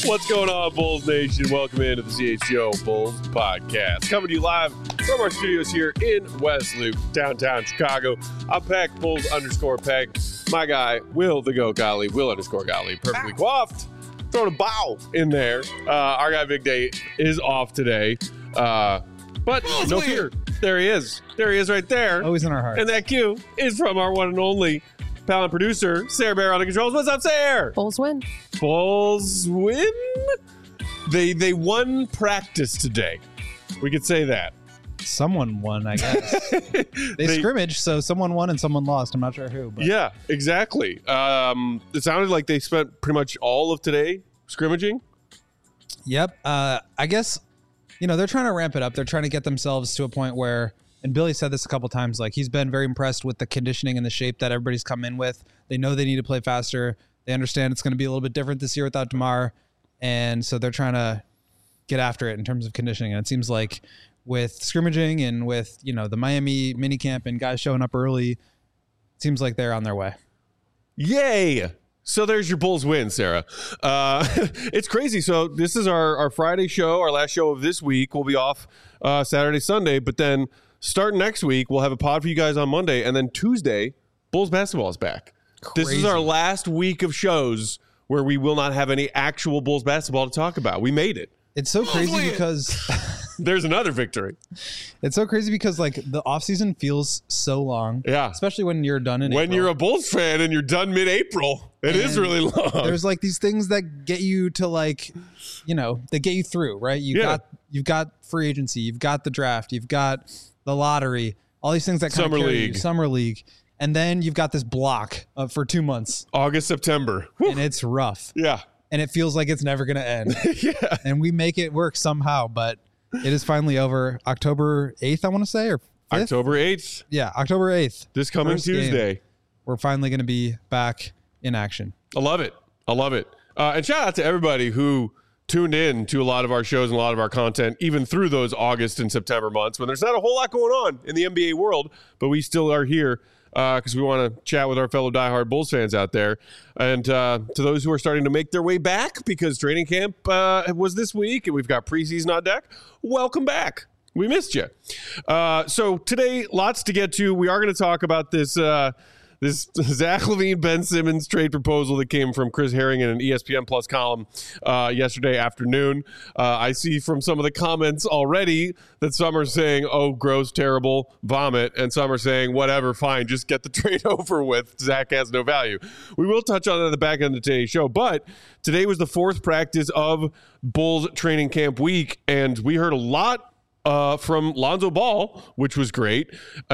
What's going on, Bulls Nation? Welcome into the CHGO Bulls podcast. Coming to you live from our studios here in West Loop, downtown Chicago. I'm Peck, Bulls_Peck. My guy, Will the Goat Gottlieb, Will_Gottlieb, perfectly coiffed. Throwing a bow in there. Our guy Big Day is off today. But no fear. There he is. There he is right there. Always in our hearts. And that cue is from our one and only pal and producer, Sarah Bear on the controls. What's up, Sarah? Bulls win. Bulls win? They won practice today. We could say that. Someone won, I guess. They scrimmaged, so someone won and someone lost. I'm not sure who. But. Yeah, exactly. It sounded like they spent pretty much all of today scrimmaging. Yep. I guess, they're trying to ramp it up. They're trying to get themselves to a point where, and Billy said this a couple times, like he's been very impressed with the conditioning and the shape that everybody's come in with. They know they need to play faster. They understand it's going to be a little bit different this year without DeMar. And so they're trying to get after it in terms of conditioning. And it seems like with scrimmaging and with, the Miami minicamp and guys showing up early, it seems like they're on their way. Yay! So there's your Bulls win, Sarah. It's crazy. So this is our Friday show, our last show of this week. We'll be off Saturday, Sunday, but then starting next week, we'll have a pod for you guys on Monday, and then Tuesday, Bulls basketball is back. Crazy. This is our last week of shows where we will not have any actual Bulls basketball to talk about. We made it. It's so crazy because there's another victory. It's so crazy because like the offseason feels so long. Yeah. Especially when you're done in April. When you're a Bulls fan and you're done mid-April. It is really long. There's like these things that get you to like, they get you through, right? You've got free agency, you've got the draft, you've got the lottery, all these things that kind of carry you, Summer League. And then you've got this block for 2 months. August, September. Whew. And it's rough. Yeah. And it feels like it's never going to end. Yeah. And we make it work somehow, but it is finally over. October 8th, I want to say, or 5th? October 8th. Yeah, October 8th. This coming Tuesday. Game. We're finally going to be back in action. I love it. And shout out to everybody who tuned in to a lot of our shows and a lot of our content, even through those August and September months when there's not a whole lot going on in the NBA world, but we still are here because we want to chat with our fellow diehard Bulls fans out there. And to those who are starting to make their way back because training camp was this week and we've got preseason on deck, welcome back. We missed you. So today, lots to get to. We are going to talk about this Zach LaVine, Ben Simmons trade proposal that came from Chris Herring in an ESPN Plus column yesterday afternoon. I see from some of the comments already that some are saying, oh, gross, terrible, vomit, and some are saying, whatever, fine, just get the trade over with. Zach has no value. We will touch on it at the back end of today's show, but today was the fourth practice of Bulls training camp week, and we heard a lot from Lonzo Ball, which was great.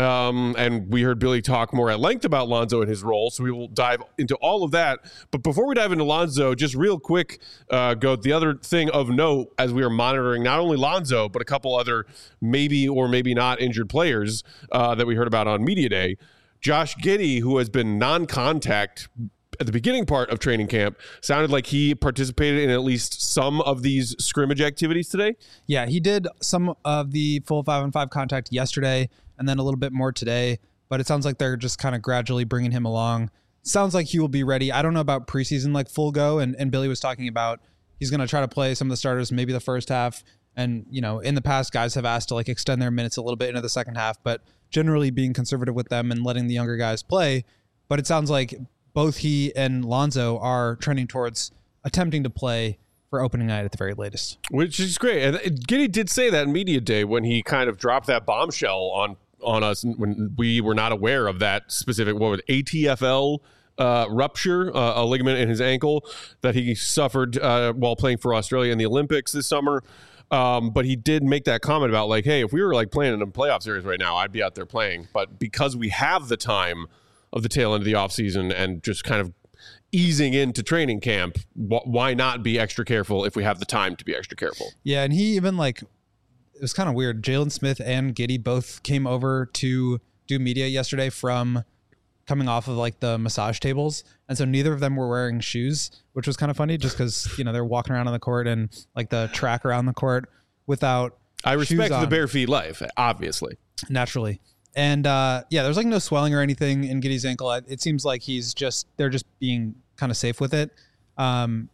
And we heard Billy talk more at length about Lonzo and his role, so we will dive into all of that. But before we dive into Lonzo, just real quick, the other thing of note as we are monitoring not only Lonzo, but a couple other maybe or maybe not injured players that we heard about on Media Day. Josh Giddey, who has been non-contact at the beginning part of training camp, sounded like he participated in at least some of these scrimmage activities today. Yeah, he did some of the full 5-on-5 contact yesterday and then a little bit more today, but it sounds like they're just kind of gradually bringing him along. Sounds like he will be ready. I don't know about preseason, like full go, and Billy was talking about he's going to try to play some of the starters, maybe the first half. And, in the past, guys have asked to like extend their minutes a little bit into the second half, but generally being conservative with them and letting the younger guys play. But it sounds like both he and Lonzo are trending towards attempting to play for opening night at the very latest. Which is great. And Giddey did say that in Media Day when he kind of dropped that bombshell on us when we were not aware of that specific, ATFL rupture, a ligament in his ankle that he suffered while playing for Australia in the Olympics this summer. But he did make that comment about like, hey, if we were like playing in a playoff series right now, I'd be out there playing. But because we have the time of the tail end of the offseason and just kind of easing into training camp, why not be extra careful if we have the time to be extra careful? Yeah, and he even it was kind of weird. Jalen Smith and Giddey both came over to do media yesterday from coming off of like the massage tables. And so neither of them were wearing shoes, which was kind of funny just because, they're walking around on the court and like the track around the court without I respect the bare feet life, obviously. Naturally. And there's like no swelling or anything in Giddey's ankle. It seems like they're just being kind of safe with it.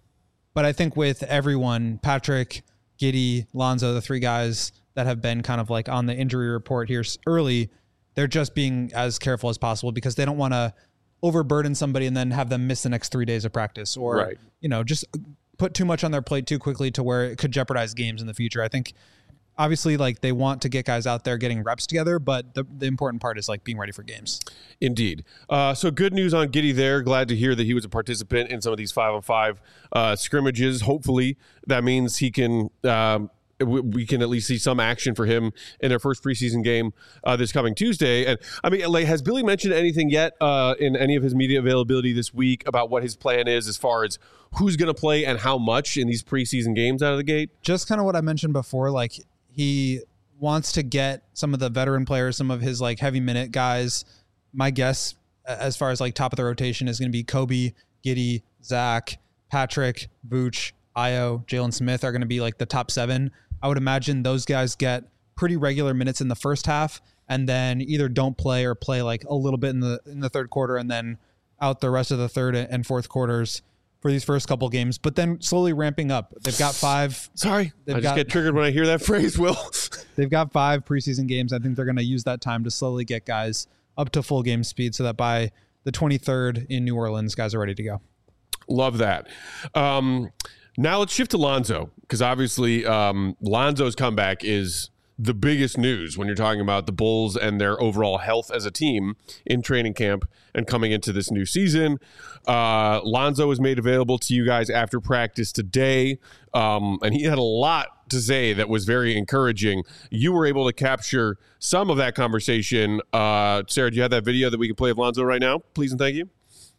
But I think with everyone, Patrick, Giddey, Lonzo, the 3 guys that have been kind of like on the injury report here early, they're just being as careful as possible because they don't want to overburden somebody and then have them miss the next 3 days of practice or, just put too much on their plate too quickly to where it could jeopardize games in the future. I think obviously like they want to get guys out there getting reps together, but the important part is like being ready for games. Indeed. So good news on Giddey there. Glad to hear that he was a participant in some of these 5-on-5 scrimmages. Hopefully that means he can, we can at least see some action for him in their first preseason game this coming Tuesday. And I mean, like, has Billy mentioned anything yet in any of his media availability this week about what his plan is as far as who's going to play and how much in these preseason games out of the gate? Just kind of what I mentioned before, like he wants to get some of the veteran players, some of his like heavy minute guys. My guess as far as like top of the rotation is going to be Kobe, Giddey, Zach, Patrick, Vooch, Ayo, Jalen Smith are going to be like the top 7. I would imagine those guys get pretty regular minutes in the first half and then either don't play or play like a little bit in the third quarter and then out the rest of the third and fourth quarters for these first couple games, but then slowly ramping up. They've got 5. Sorry, I just get triggered when I hear that phrase, Will. They've got 5 preseason games. I think they're going to use that time to slowly get guys up to full game speed so that by the 23rd in New Orleans, guys are ready to go. Love that. Now let's shift to Lonzo, because obviously Lonzo's comeback is the biggest news when you're talking about the Bulls and their overall health as a team in training camp and coming into this new season. Lonzo was made available to you guys after practice today, and he had a lot to say that was very encouraging. You were able to capture some of that conversation. Sarah, do you have that video that we can play of Lonzo right now? Please and thank you.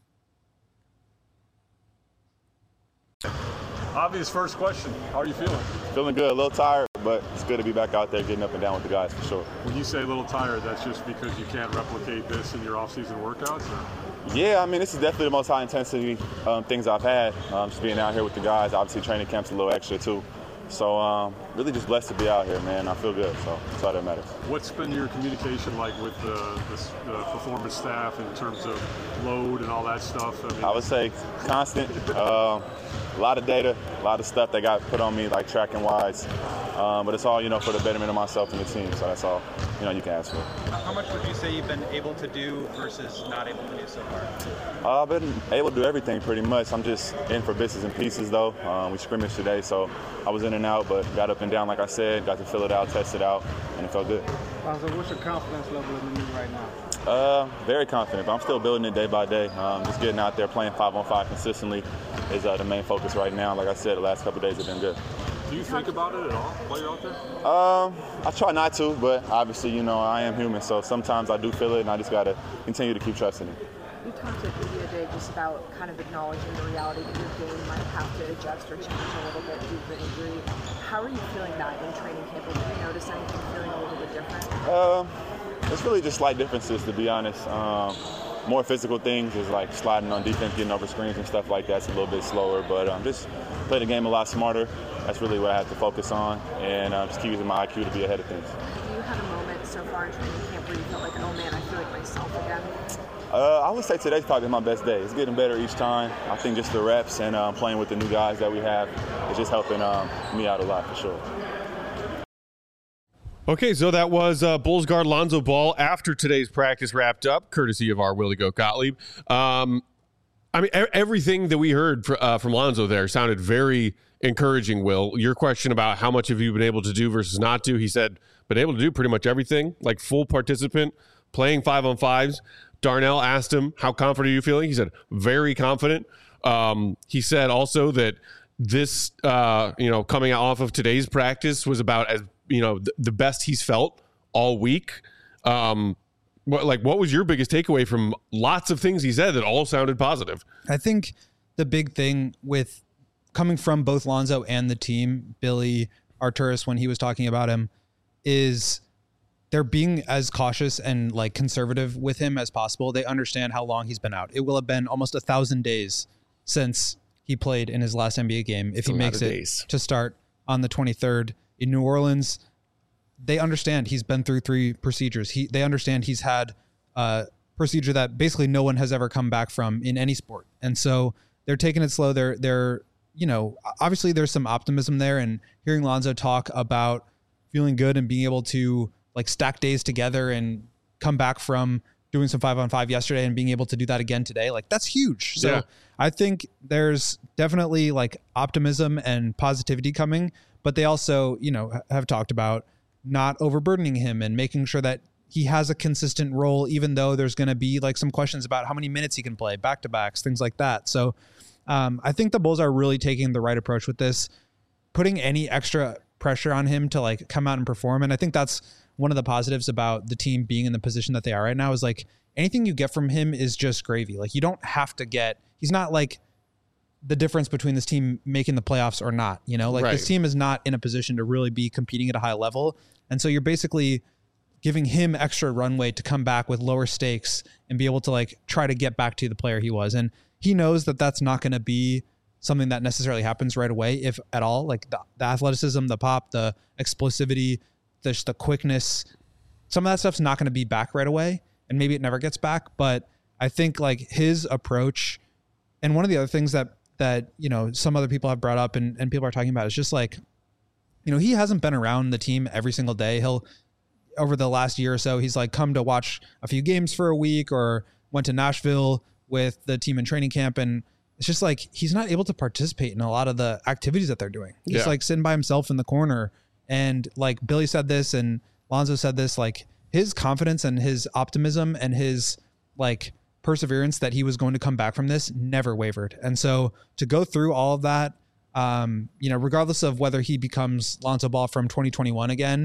Obvious first question. How are you feeling? Feeling good, a little tired, but it's good to be back out there getting up and down with the guys for sure. When you say a little tired, that's just because you can't replicate this in your off-season workouts? Or? Yeah, I mean, this is definitely the most high-intensity things I've had. Just being out here with the guys. Obviously, training camp's a little extra, too. So really just blessed to be out here, man. I feel good, so that's all that matters. What's been your communication like with the performance staff in terms of load and all that stuff? I would say constant. A lot of data, a lot of stuff that got put on me, like tracking-wise. But it's all, for the betterment of myself and the team. So that's all, you can ask for. How much would you say you've been able to do versus not able to do so far? I've been able to do everything pretty much. I'm just in for bits and pieces, though. We scrimmaged today, so I was in and out, but got up and down, like I said, got to fill it out, test it out, and it felt good. So what's your confidence level in the knee right now? Very confident, but I'm still building it day by day. Just getting out there, playing 5-on-5 consistently is the main focus right now. Like I said, the last couple of days have been good. Do you think about it at all while you're out there? I try not to, but obviously, I am human, so sometimes I do feel it, and I just got to continue to keep trusting it. You talked at media day just about kind of acknowledging the reality that your game might have to adjust or change a little bit due to injury. How are you feeling that in training camp? Did you notice anything feeling a little bit different? It's really just slight differences, to be honest. More physical things is like sliding on defense, getting over screens and stuff like that's a little bit slower, but just play the game a lot smarter. That's really what I have to focus on, and just keep using my IQ to be ahead of things. Do you have a moment so far in training camp where you felt like, oh man, I feel like myself again? I would say today's probably my best day. It's getting better each time. I think just the reps and playing with the new guys that we have is just helping me out a lot for sure. Okay, so that was Bulls guard Lonzo Ball after today's practice wrapped up, courtesy of our Willie Goat Gottlieb. Everything that we heard from Lonzo there sounded very encouraging, Will. Your question about how much have you been able to do versus not do, he said, been able to do pretty much everything, like full participant, playing 5-on-5s. Darnell asked him, how confident are you feeling? He said, very confident. He said also that this, coming off of today's practice was about as, the best he's felt all week. What was your biggest takeaway from lots of things he said that all sounded positive? I think the big thing with coming from both Lonzo and the team, Billy Arturas, when he was talking about him, is they're being as cautious and like conservative with him as possible. They understand how long he's been out. It will have been almost 1,000 days since he played in his last NBA game. If he makes it to start on the 23rd in New Orleans, they understand he's been through 3 procedures. They understand he's had a procedure that basically no one has ever come back from in any sport. And so they're taking it slow. They're obviously there's some optimism there, and hearing Lonzo talk about feeling good and being able to like stack days together and come back from doing some 5-on-5 yesterday and being able to do that again today, like that's huge. So Yeah. I think there's definitely like optimism and positivity coming, but they also, have talked about not overburdening him and making sure that he has a consistent role, even though there's going to be like some questions about how many minutes he can play, back-to-backs, things like that. So I think the Bulls are really taking the right approach with this, putting any extra pressure on him to like come out and perform. And I think that's one of the positives about the team being in the position that they are right now, is like anything you get from him is just gravy. Like you don't have to he's not like the difference between this team making the playoffs or not, Right. This team is not in a position to really be competing at a high level. And so you're basically giving him extra runway to come back with lower stakes and be able to like try to get back to the player he was. And he knows that that's not going to be something that necessarily happens right away, if at all. Like the athleticism, the pop, the explosivity, the quickness, some of that stuff's not going to be back right away, and maybe it never gets back. But I think like his approach, and one of the other things that some other people have brought up and people are talking about is just like, he hasn't been around the team every single day. Over the last year or so, he's like come to watch a few games for a week or went to Nashville with the team in training camp. And it's just like, he's not able to participate in a lot of the activities that they're doing. He's like sitting by himself in the corner. And like Billy said this and Lonzo said this, like his confidence and his optimism and his like perseverance that he was going to come back from this never wavered. And so to go through all of that, regardless of whether he becomes Lonzo Ball from 2021 again,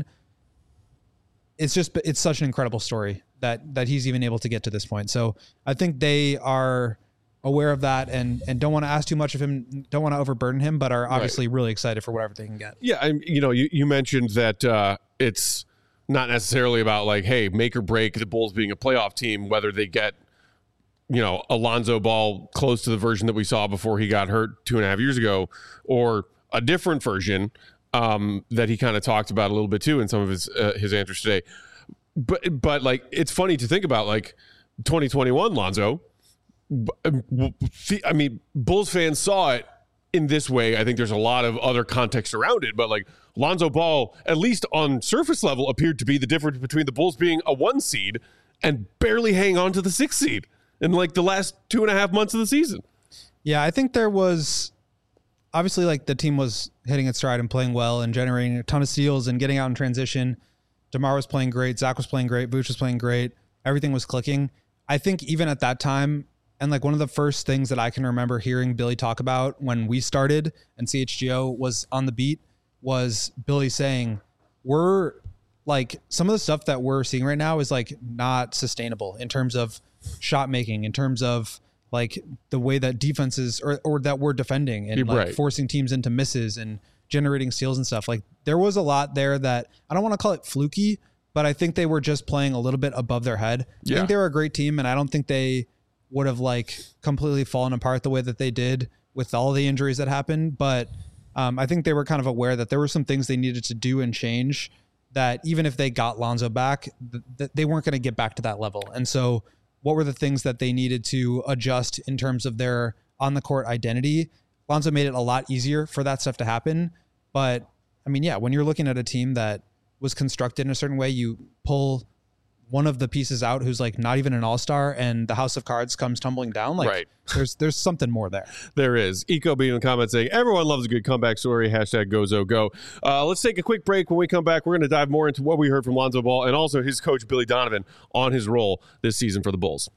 it's such an incredible story that he's even able to get to this point. So I think they are aware of that and don't want to ask too much of him, don't want to overburden him, but are obviously really excited for whatever they can get. Yeah. You mentioned that it's not necessarily about like, hey, make or break the Bulls being a playoff team, whether they get, Lonzo Ball close to the version that we saw before he got hurt 2.5 years ago, or a different version that he kind of talked about a little bit too in some of his answers today. But like, it's funny to think about like 2021 Lonzo. I mean, Bulls fans saw it in this way. I think there's a lot of other context around it, but like Lonzo Ball, at least on surface level, appeared to be the difference between the Bulls being a 1 seed and barely hang on to the 6th seed in like the last 2.5 months of the season. Yeah, I think there was obviously like the team was hitting its stride and playing well and generating a ton of steals and getting out in transition. DeMar was playing great. Zach was playing great. Vooch was playing great. Everything was clicking. I think even at that time, and like one of the first things that I can remember hearing Billy talk about when we started and CHGO was on the beat was Billy saying, we're like, some of the stuff that we're seeing right now is like not sustainable in terms of shot making, in terms of like the way that defenses or that we're defending and like forcing teams into misses and generating steals and stuff. Like there was a lot there that I don't want to call it fluky, but I think they were just playing a little bit above their head. I think they were a great team, and I don't think they would have like completely fallen apart the way that they did with all the injuries that happened. But I think they were kind of aware that there were some things they needed to do and change, that even if they got Lonzo back, they weren't going to get back to that level. And so what were the things that they needed to adjust in terms of their on the court identity? Lonzo made it a lot easier for that stuff to happen. But I mean, yeah, when you're looking at a team that was constructed in a certain way, you pull one of the pieces out who's like not even an all-star and the house of cards comes tumbling down. Like there's something more there. There is. Eco being in the comments saying, everyone loves a good comeback story. Hashtag GoZoGo. Let's take a quick break. When we come back, we're going to dive more into what we heard from Lonzo Ball and also his coach, Billy Donovan, on his role this season for the Bulls.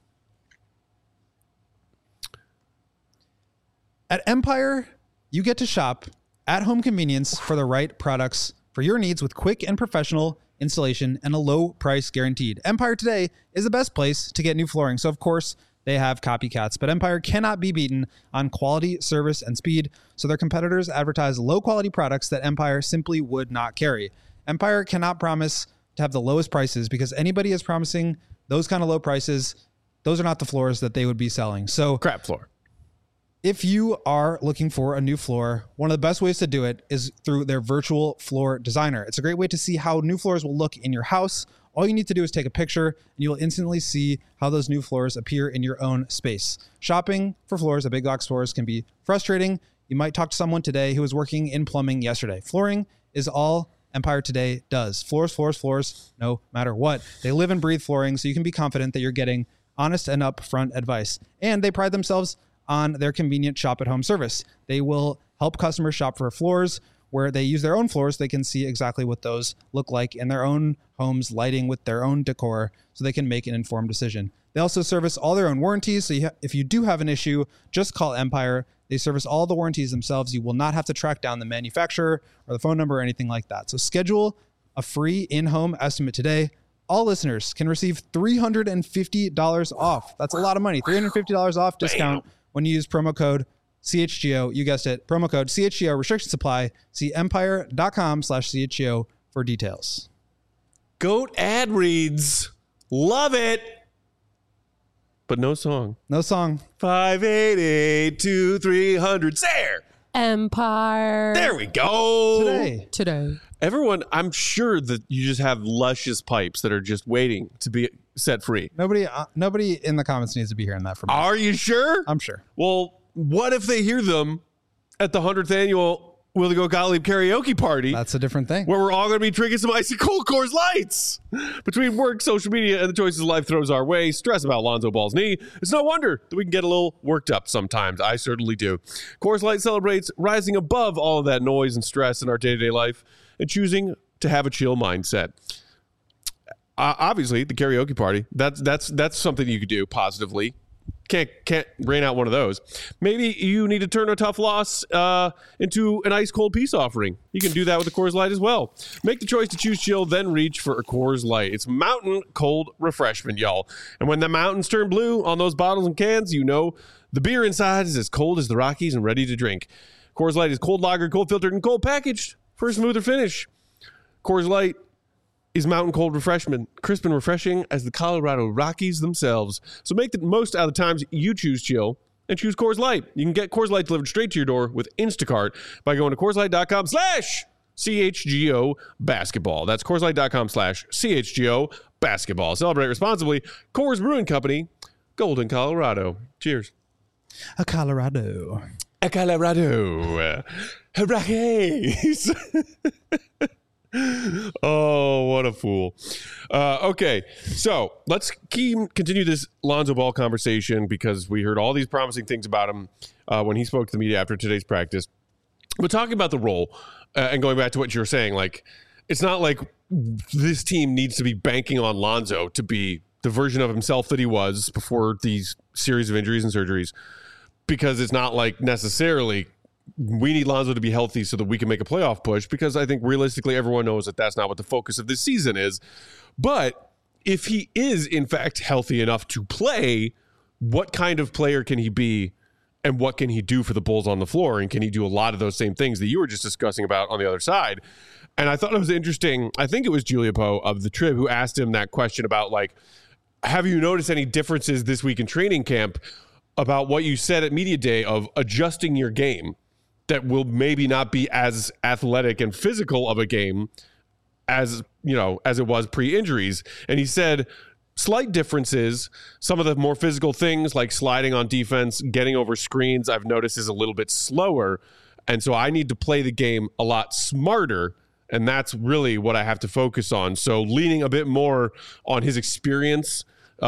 At Empire, you get to shop at home convenience for the right products for your needs with quick and professional installation and a low price guaranteed. Empire today is the best place to get new flooring. So of course they have copycats, but Empire cannot be beaten on quality, service, and speed. So their competitors advertise low quality products that Empire simply would not carry. Empire cannot promise to have the lowest prices because anybody is promising those kind of low prices. Those are not the floors that they would be selling. So crap floor. If you are looking for a new floor, one of the best ways to do it is through their virtual floor designer. It's a great way to see how new floors will look in your house. All you need to do is take a picture and you'll instantly see how those new floors appear in your own space. Shopping for floors at big box stores can be frustrating. You might talk to someone today who was working in plumbing yesterday. Flooring is all Empire Today does. Floors, floors, floors, no matter what. They live and breathe flooring, so you can be confident that you're getting honest and upfront advice. And they pride themselves on their convenient shop-at-home service. They will help customers shop for floors where they use their own floors. They can see exactly what those look like in their own homes, lighting with their own decor, so they can make an informed decision. They also service all their own warranties. So if you do have an issue, just call Empire. They service all the warranties themselves. You will not have to track down the manufacturer or the phone number or anything like that. So schedule a free in-home estimate today. All listeners can receive $350 off. That's a lot of money. $350 off discount when you use promo code CHGO. You guessed it. Promo code CHGO. Restrictions apply. See empire.com/CHGO for details. Goat ad reads. Love it. But no song. No song. 588-2300. There. Empire. There we go. Today. Everyone, I'm sure that you just have luscious pipes that are just waiting to be set free. Nobody in the comments needs to be hearing that from me. Are you sure? I'm sure. Well, what if they hear them at the 100th annual Will They Go Gottlieb karaoke party? That's a different thing. Where we're all going to be drinking some icy cold Coors Lights. Between work, social media, and the choices life throws our way, stress about Lonzo Ball's knee, it's no wonder that we can get a little worked up sometimes. I certainly do. Coors Light celebrates rising above all of that noise and stress in our day-to-day life and choosing to have a chill mindset. Obviously, the karaoke party, that's something you could do positively. Can't rain out one of those. Maybe you need to turn a tough loss into an ice cold peace offering. You can do that with a Coors Light as well. Make the choice to choose chill, then reach for a Coors Light. It's mountain cold refreshment, y'all. And when the mountains turn blue on those bottles and cans, you know the beer inside is as cold as the Rockies and ready to drink. Coors Light is cold lagered, cold filtered, and cold packaged for a smoother finish. Coors Light is mountain cold refreshment, crisp and refreshing as the Colorado Rockies themselves. So make the most out of the times you choose chill and choose Coors Light. You can get Coors Light delivered straight to your door with Instacart by going to CoorsLight.com/CHGO basketball. That's CoorsLight.com/CHGO basketball. Celebrate responsibly. Coors Brewing Company, Golden, Colorado. Cheers. A Colorado. Rockies. Oh, what a fool. Okay, so let's continue this Lonzo Ball conversation because we heard all these promising things about him when he spoke to the media after today's practice. But talking about the role and going back to what you were saying, like, it's not like this team needs to be banking on Lonzo to be the version of himself that he was before these series of injuries and surgeries, because it's not like necessarily we need Lonzo to be healthy so that we can make a playoff push, because I think realistically everyone knows that that's not what the focus of this season is. But if he is in fact healthy enough to play, what kind of player can he be and what can he do for the Bulls on the floor? And can he do a lot of those same things that you were just discussing about on the other side? And I thought it was interesting. I think it was Julia Poe of the Trib who asked him that question about, like, have you noticed any differences this week in training camp about what you said at Media Day of adjusting your game that will maybe not be as athletic and physical of a game as, you know, as it was pre-injuries? And he said slight differences. Some of the more physical things like sliding on defense, getting over screens, I've noticed is a little bit slower. And so I need to play the game a lot smarter. And that's really what I have to focus on. So leaning a bit more on his experience,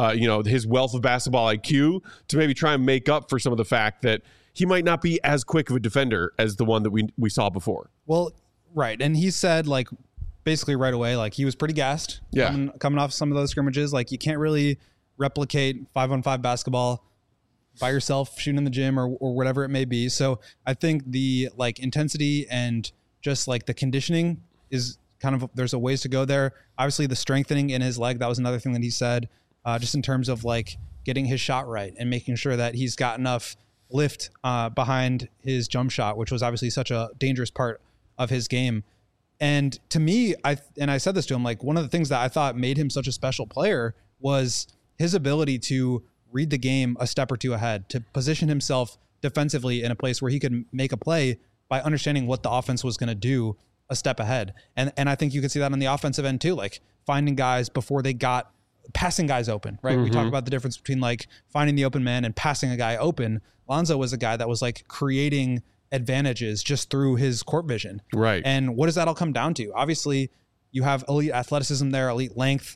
his wealth of basketball IQ to maybe try and make up for some of the fact that he might not be as quick of a defender as the one that we saw before. Well, right. And he said, like, basically right away, like, he was pretty gassed coming off some of those scrimmages. Like, you can't really replicate 5-on-5 basketball by yourself shooting in the gym or whatever it may be. So I think the, like, intensity and just, like, the conditioning is kind of, there's a ways to go there. Obviously the strengthening in his leg, that was another thing that he said, just in terms of, like, getting his shot right and making sure that he's got enough lift behind his jump shot, which was obviously such a dangerous part of his game. And to me, I said this to him, like, one of the things that I thought made him such a special player was his ability to read the game a step or two ahead, to position himself defensively in a place where he could make a play by understanding what the offense was going to do a step ahead. And I think you could see that on the offensive end too, like finding guys before they got passing guys open, right? Mm-hmm. We talk about the difference between, like, finding the open man and passing a guy open. Lonzo was a guy that was, like, creating advantages just through his court vision. Right. And what does that all come down to? Obviously, you have elite athleticism there, elite length,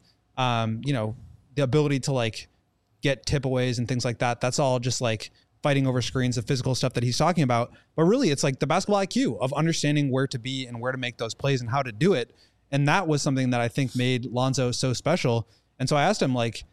the ability to like get tip-aways and things like that. That's all just like fighting over screens, the physical stuff that he's talking about. But really, it's like the basketball IQ of understanding where to be and where to make those plays and how to do it. And that was something that I think made Lonzo so special. And so I asked him, like,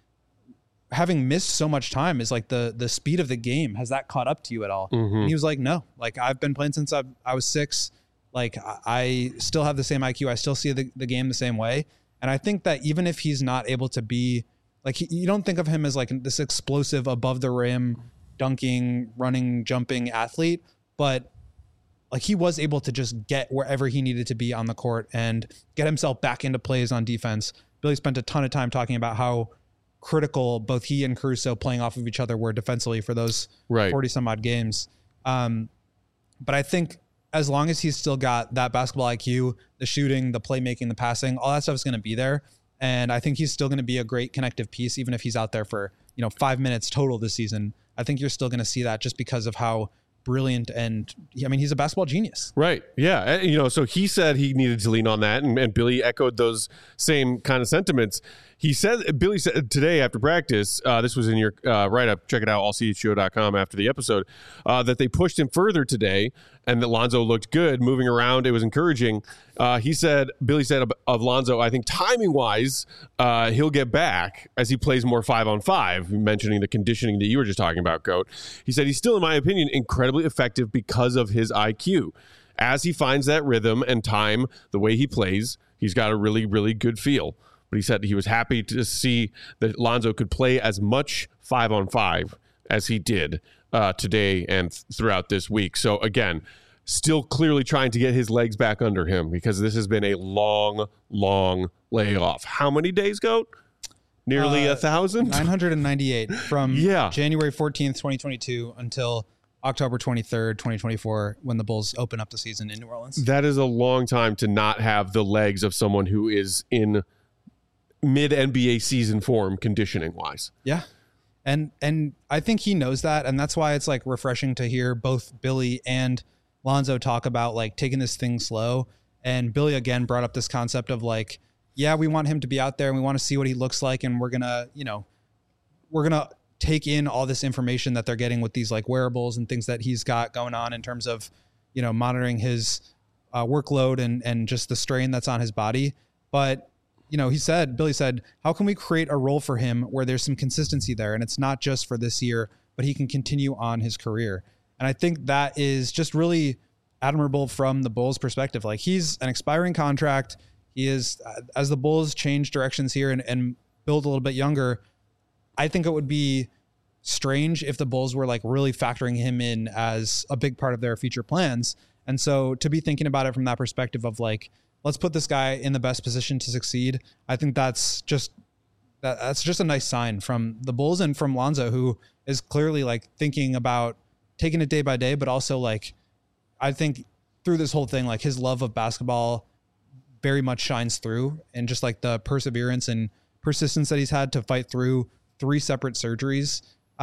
having missed so much time, is like the speed of the game, has that caught up to you at all? And he was like, no, like I've been playing since I was 6. Like I still have the same IQ. I still see the game the same way. And I think that even if he's not able to be like, you don't think of him as like this explosive above the rim, dunking, running, jumping athlete, but like he was able to just get wherever he needed to be on the court and get himself back into plays on defense. Billy spent a ton of time talking about how critical both he and Caruso playing off of each other were defensively for those 40 some odd games. But I think as long as he's still got that basketball IQ, the shooting, the playmaking, the passing, all that stuff is going to be there. And I think he's still going to be a great connective piece, even if he's out there for, 5 minutes total this season. I think you're still going to see that just because of how brilliant and he's a basketball genius. Right. Yeah. And, so he said he needed to lean on that, and Billy echoed those same kind of sentiments. Billy said today after practice, this was in your write-up, check it out, allchgo.com after the episode, that they pushed him further today and that Lonzo looked good moving around. It was encouraging. Billy said of Lonzo, I think timing-wise, he'll get back as he plays more 5-on-5, mentioning the conditioning that you were just talking about, Goat. He said he's still, in my opinion, incredibly effective because of his IQ. As he finds that rhythm and time, the way he plays, he's got a really, really good feel. But he said he was happy to see that Lonzo could play as much 5-on-5 as he did today and throughout this week. So again, still clearly trying to get his legs back under him because this has been a long, long layoff. How many days, Goat? Nearly 1,000? 998 from January 14th, 2022 until October 23rd, 2024, when the Bulls open up the season in New Orleans. That is a long time to not have the legs of someone who is in mid-NBA season form conditioning-wise. Yeah. And I think he knows that, and that's why it's like refreshing to hear both Billy and Lonzo talk about like taking this thing slow. And Billy again brought up this concept of like, yeah, we want him to be out there and we want to see what he looks like, and we're gonna take in all this information that they're getting with these like wearables and things that he's got going on in terms of, monitoring his workload and just the strain that's on his body. But Billy said, how can we create a role for him where there's some consistency there? And it's not just for this year, but he can continue on his career. And I think that is just really admirable from the Bulls' perspective. Like, he's an expiring contract. He is, as the Bulls change directions here and build a little bit younger, I think it would be strange if the Bulls were like really factoring him in as a big part of their future plans. And so to be thinking about it from that perspective of like, let's put this guy in the best position to succeed, I think that's just a nice sign from the Bulls and from Lonzo, who is clearly like thinking about taking it day by day, but also like, I think through this whole thing, like his love of basketball very much shines through, and just like the perseverance and persistence that he's had to fight through 3 separate surgeries.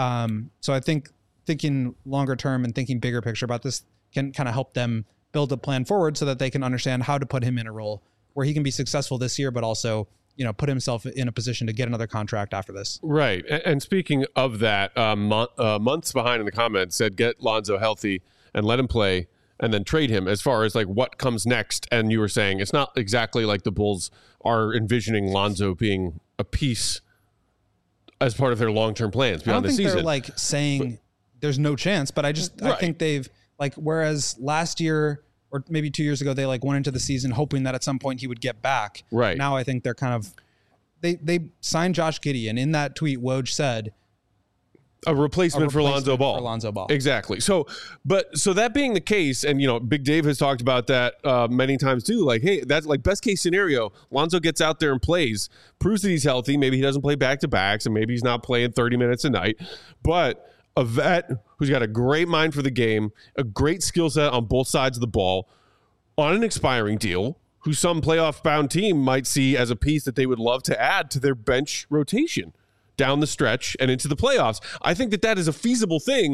So I think thinking longer term and thinking bigger picture about this can kind of help them build a plan forward so that they can understand how to put him in a role where he can be successful this year, but also, put himself in a position to get another contract after this. Right. And speaking of that, months behind in the comments said, get Lonzo healthy and let him play and then trade him, as far as like what comes next. And you were saying it's not exactly like the Bulls are envisioning Lonzo being a piece as part of their long-term plans beyond the season. They're like saying there's no chance, but I think they've like, whereas last year or maybe 2 years ago, they like went into the season hoping that at some point he would get back. Right. Now I think they're kind of, they signed Josh Giddey, and in that tweet, Woj said a replacement for Lonzo Ball. For Lonzo Ball. Exactly. So that being the case, and Big Dave has talked about that many times too. Like, hey, that's like best case scenario. Lonzo gets out there and plays, proves that he's healthy. Maybe he doesn't play back to backs, and maybe he's not playing 30 minutes a night, but a vet who's got a great mind for the game, a great skill set on both sides of the ball, on an expiring deal, who some playoff-bound team might see as a piece that they would love to add to their bench rotation down the stretch and into the playoffs. I think that is a feasible thing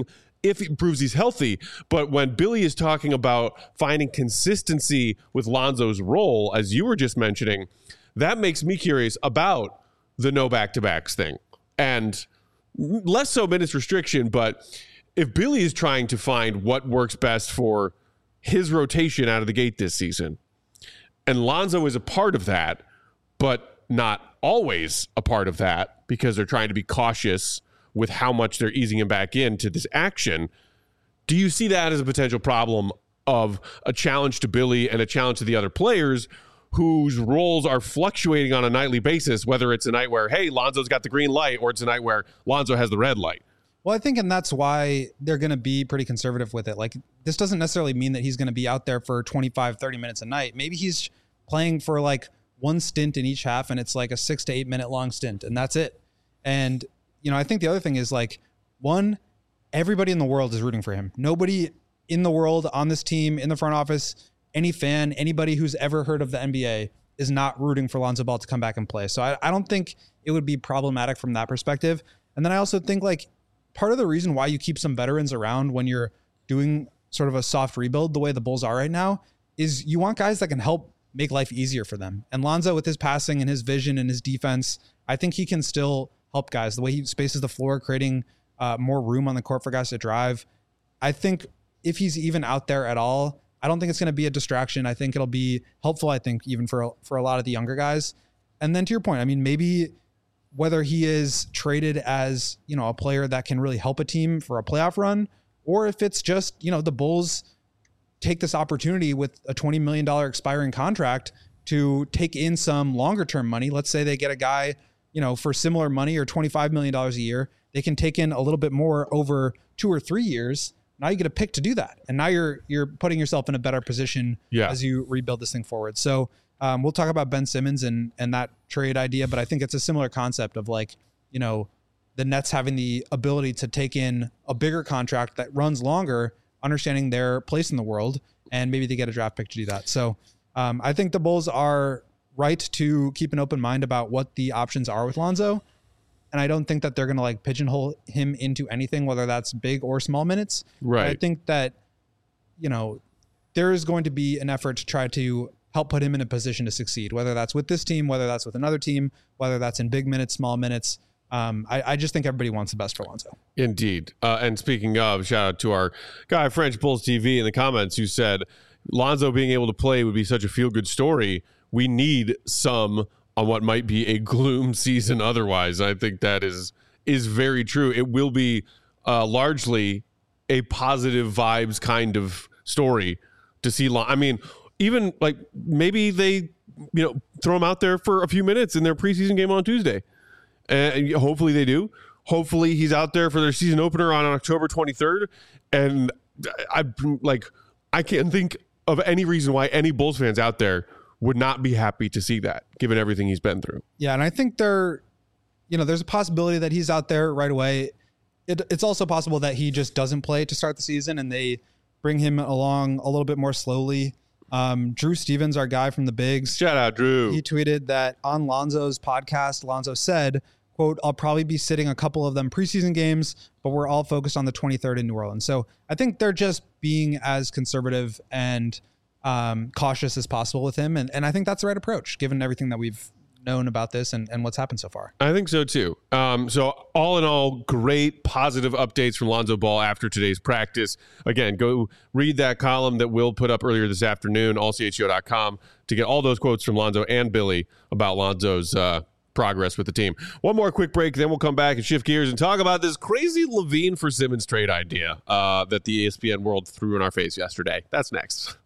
if he proves he's healthy. But when Billy is talking about finding consistency with Lonzo's role, as you were just mentioning, that makes me curious about the no back-to-backs thing. And less so minutes restriction, but if Billy is trying to find what works best for his rotation out of the gate this season, and Lonzo is a part of that, but not always a part of that because they're trying to be cautious with how much they're easing him back into this action. Do you see that as a potential problem of a challenge to Billy and a challenge to the other players whose roles are fluctuating on a nightly basis, whether it's a night where, hey, Lonzo's got the green light, or it's a night where Lonzo has the red light? Well, I think, and that's why they're going to be pretty conservative with it. Like, this doesn't necessarily mean that he's going to be out there for 25, 30 minutes a night. Maybe he's playing for like one stint in each half, and it's like a 6 to 8 minute long stint, and that's it. And, I think the other thing is, like, one, everybody in the world is rooting for him. Nobody in the world, on this team, in the front office, any fan, anybody who's ever heard of the NBA is not rooting for Lonzo Ball to come back and play. So I don't think it would be problematic from that perspective. And then I also think, like, part of the reason why you keep some veterans around when you're doing sort of a soft rebuild the way the Bulls are right now is you want guys that can help make life easier for them. And Lonzo, with his passing and his vision and his defense, I think he can still help guys. The way he spaces the floor, creating more room on the court for guys to drive. I think if he's even out there at all, I don't think it's going to be a distraction. I think it'll be helpful, I think, even for a lot of the younger guys. And then to your point, I mean, maybe whether he is traded as, a player that can really help a team for a playoff run, or if it's just, the Bulls take this opportunity with a $20 million expiring contract to take in some longer term money. Let's say they get a guy, for similar money or $25 million a year. They can take in a little bit more over 2 or 3 years. Now you get a pick to do that. And now you're putting yourself in a better position as you rebuild this thing forward. So we'll talk about Ben Simmons and that trade idea, but I think it's a similar concept of, like, the Nets having the ability to take in a bigger contract that runs longer, understanding their place in the world, and maybe they get a draft pick to do that. So I think the Bulls are right to keep an open mind about what the options are with Lonzo. And I don't think that they're going to, like, pigeonhole him into anything, whether that's big or small minutes. Right. But I think that, there is going to be an effort to try to help put him in a position to succeed, whether that's with this team, whether that's with another team, whether that's in big minutes, small minutes. I just think everybody wants the best for Lonzo. Indeed. And speaking of, shout out to our guy, French Bulls TV, in the comments, who said Lonzo being able to play would be such a feel-good story. We need some on what might be a gloom season otherwise. I think that is very true. It will be largely a positive vibes kind of story to see. I mean, even like maybe they, throw him out there for a few minutes in their preseason game on Tuesday. And hopefully they do. Hopefully he's out there for their season opener on October 23rd. And I can't think of any reason why any Bulls fans out there would not be happy to see that, given everything he's been through. Yeah, and I think there's a possibility that he's out there right away. It's also possible that he just doesn't play to start the season and they bring him along a little bit more slowly. Drew Stevens, our guy from the Bigs. Shout out, Drew. He tweeted that on Lonzo's podcast, Lonzo said, quote, "I'll probably be sitting a couple of them preseason games, but we're all focused on the 23rd in New Orleans." So I think they're just being as conservative and cautious as possible with him. And I think that's the right approach, given everything that we've known about this and what's happened so far. I think so too. So all in all, great positive updates from Lonzo Ball after today's practice. Again, go read that column that Will put up earlier this afternoon, allchgo.com, to get all those quotes from Lonzo and Billy about Lonzo's progress with the team. One more quick break, then we'll come back and shift gears and talk about this crazy LaVine for Simmons trade idea that the ESPN world threw in our face yesterday. That's next.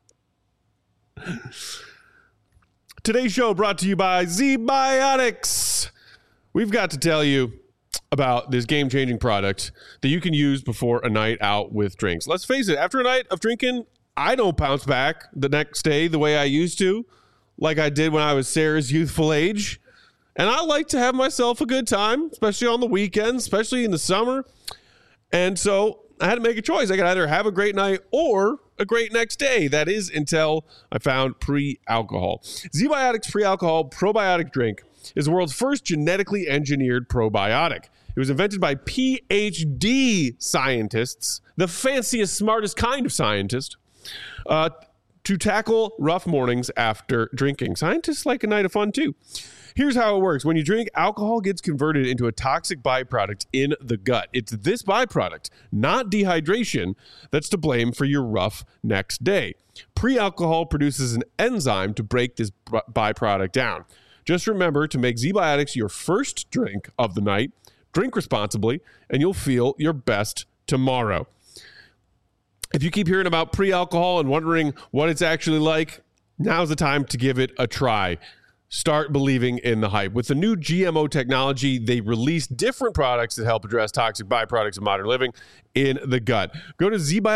Today's show brought to you by ZBiotics. We've got to tell you about this game-changing product that you can use before a night out with drinks. Let's face it, after a night of drinking, I don't bounce back the next day the way I used to, like I did when I was Sarah's youthful age. And I like to have myself a good time, especially on the weekends, especially in the summer. And so I had to make a choice. I could either have a great night or a great next day. That is until I found pre-alcohol. ZBiotics Pre-Alcohol Probiotic Drink is the world's first genetically engineered probiotic. It was invented by PhD scientists, the fanciest, smartest kind of scientist, to tackle rough mornings after drinking. Scientists like a night of fun, too. Here's how it works. When you drink, alcohol gets converted into a toxic byproduct in the gut. It's this byproduct, not dehydration, that's to blame for your rough next day. Pre-alcohol produces an enzyme to break this byproduct down. Just remember to make ZBiotics your first drink of the night. Drink responsibly, and you'll feel your best tomorrow. If you keep hearing about pre-alcohol and wondering what it's actually like, now's the time to give it a try. Start believing in the hype. With the new GMO technology, they release different products that help address toxic byproducts of modern living in the gut. Go to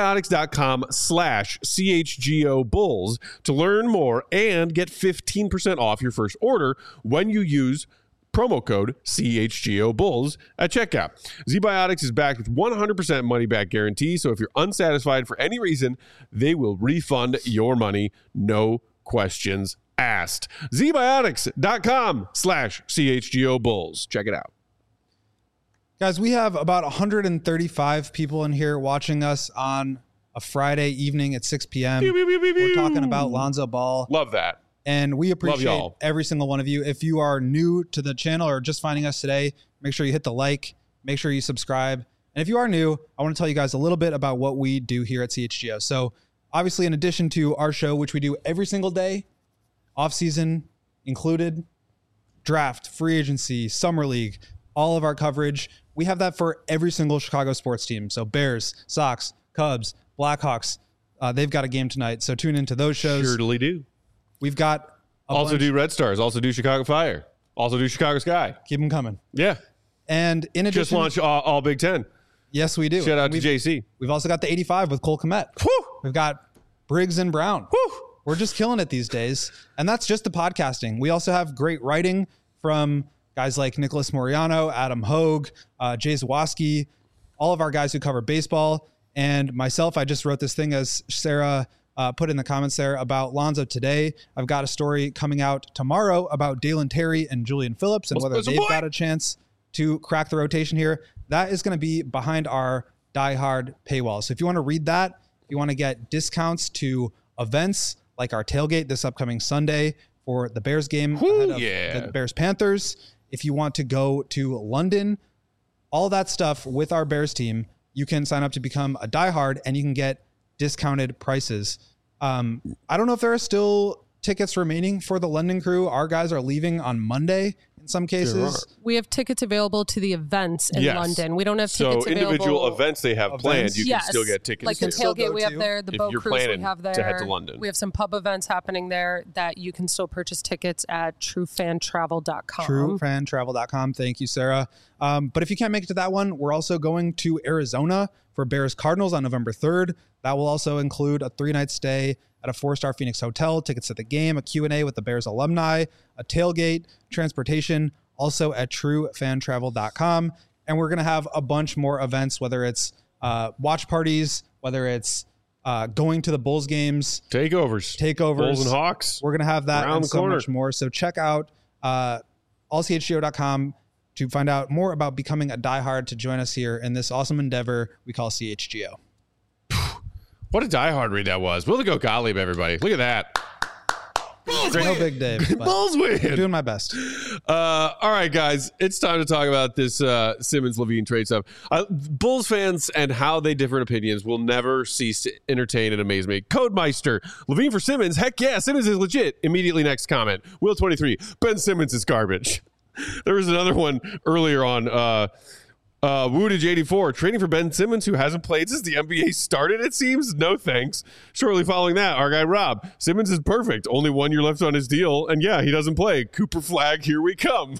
zbiotics.com/CHGO-Bulls to learn more and get 15% off your first order when you use promo code CHGO-Bulls at checkout. ZBiotics is backed with 100% money-back guarantee, so if you're unsatisfied for any reason, they will refund your money, no questions asked. ZBiotics.com/CHGO-Bulls. Check it out. Guys, we have about 135 people in here watching us on a Friday evening at 6 p.m. We're talking about Lonzo Ball. Love that. And we appreciate every single one of you. If you are new to the channel or just finding us today, make sure you hit the like, make sure you subscribe. And if you are new, I want to tell you guys a little bit about what we do here at CHGO. So obviously, in addition to our show, which we do every single day, off-season included, draft, free agency, summer league, all of our coverage, we have that for every single Chicago sports team. So Bears, Sox, Cubs, Blackhawks, they've got a game tonight. So tune into those shows. Surely do. We've got also do Red Stars, also do Chicago Fire, also do Chicago Sky. Keep them coming. Yeah. And in addition, just launched all Big Ten. Yes, we do. Shout out to JC. We've also got the 85 with Cole Kmet. Whew. We've got Briggs and Brown. Whew. We're just killing it these days. And that's just the podcasting. We also have great writing from guys like Nicholas Moriano, Adam Hogue, Jay Zawoski, all of our guys who cover baseball. And myself, I just wrote this thing, as Sarah put in the comments there, about Lonzo today. I've got a story coming out tomorrow about Dalen Terry and Julian Phillips and whether they've got a chance to crack the rotation here. That is going to be behind our Die Hard paywall. So if you want to read that, if you want to get discounts to events like our tailgate this upcoming Sunday for the Bears game ahead of the Bears-Panthers, if you want to go to London, all that stuff with our Bears team, you can sign up to become a Die Hard and you can get discounted prices. I don't know if there are still tickets remaining for the London crew. Our guys are leaving on Monday in some cases. We have tickets available to the events in London. We don't have tickets available. So individual events they have planned, you can still get tickets. Like the tailgate we have there, the boat cruise we have there. To head to London. We have some pub events happening there that you can still purchase tickets at truefantravel.com. Truefantravel.com. Thank you, Sarah. But if you can't make it to that one, we're also going to Arizona for Bears Cardinals on November 3rd. That will also include a 3-night stay at a 4-star Phoenix hotel, tickets to the game, a Q&A with the Bears alumni, a tailgate, transportation, also at truefantravel.com. And we're going to have a bunch more events, whether it's watch parties, whether it's going to the Bulls games. Takeovers. Bulls and Hawks. We're going to have that and so much more. So check out allchgo.com to find out more about becoming a diehard to join us here in this awesome endeavor we call CHGO. What a diehard read that was. Will to go Gottlieb, everybody. Look at that. Great. No big Dave. Bulls win. I'm doing my best. All right, guys. It's time to talk about this Simmons-Levine trade stuff. Bulls fans and how they differ in opinions will never cease to entertain and amaze me. Codemeister, Levine for Simmons. Heck yeah, Simmons is legit. Immediately next comment. Will 23, Ben Simmons is garbage. There was another one earlier on Woodage 84, trading for Ben Simmons, who hasn't played since the NBA started, it seems. No thanks. Shortly following that, our guy Rob, Simmons is perfect. Only 1 year left on his deal. And yeah, he doesn't play. Cooper flag, here we come.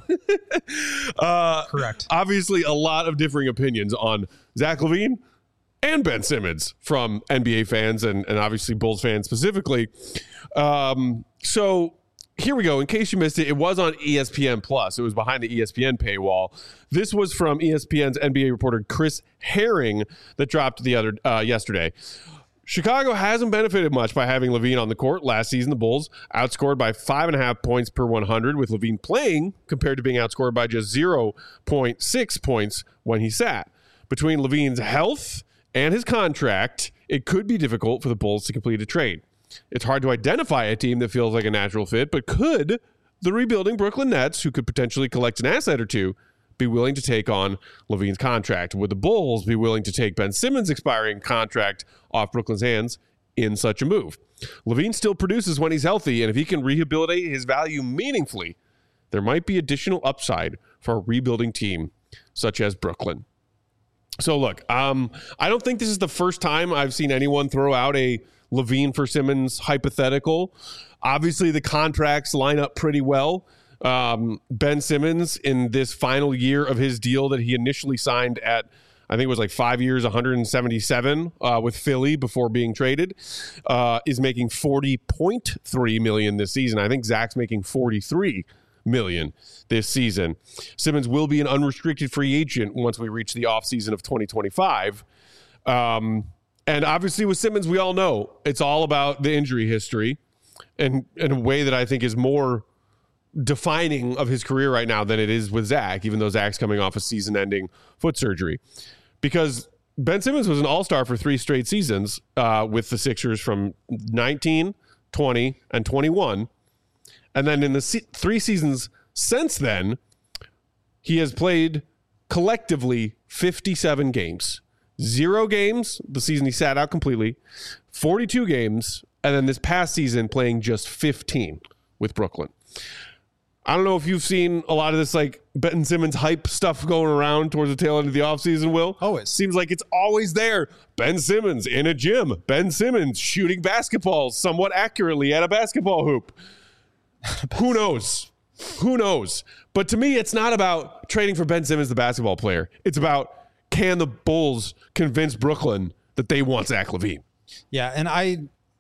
Correct. Obviously, a lot of differing opinions on Zach LaVine and Ben Simmons from NBA fans and obviously Bulls fans specifically. So here we go. In case you missed it, it was on ESPN Plus. It was behind the ESPN paywall. This was from ESPN's NBA reporter Chris Herring that dropped the other yesterday. Chicago hasn't benefited much by having LaVine on the court. Last season, the Bulls outscored by 5.5 points per 100 with LaVine playing compared to being outscored by just 0.6 points when he sat. Between LaVine's health and his contract, it could be difficult for the Bulls to complete a trade. It's hard to identify a team that feels like a natural fit, but could the rebuilding Brooklyn Nets, who could potentially collect an asset or two, be willing to take on LaVine's contract? Would the Bulls be willing to take Ben Simmons' expiring contract off Brooklyn's hands in such a move? LaVine still produces when he's healthy, and if he can rehabilitate his value meaningfully, there might be additional upside for a rebuilding team such as Brooklyn. So look, I don't think this is the first time I've seen anyone throw out a LaVine for Simmons hypothetical. Obviously, the contracts line up pretty well. Ben Simmons, in this final year of his deal that he initially signed at, I think it was like 5 years, 177 with Philly before being traded, is making $40.3 million this season. I think Zach's making $43 million this season. Simmons will be an unrestricted free agent once we reach the offseason of 2025. And obviously with Simmons, we all know it's all about the injury history, and in a way that I think is more defining of his career right now than it is with Zach, even though Zach's coming off a season-ending foot surgery. Because Ben Simmons was an all-star for 3 straight seasons with the Sixers from 19, 20, and 21. And then in the 3 seasons since then, he has played collectively 57 games. 0 games the season he sat out completely, 42 games, and then this past season playing just 15 with Brooklyn. I don't know if you've seen a lot of this like Ben Simmons hype stuff going around towards the tail end of the offseason, Will. Always. Seems like it's always there. Ben Simmons in a gym. Ben Simmons shooting basketballs somewhat accurately at a basketball hoop. Who knows? Who knows? But to me, it's not about trading for Ben Simmons, the basketball player. It's about, can the Bulls convince Brooklyn that they want Zach LaVine? Yeah, and I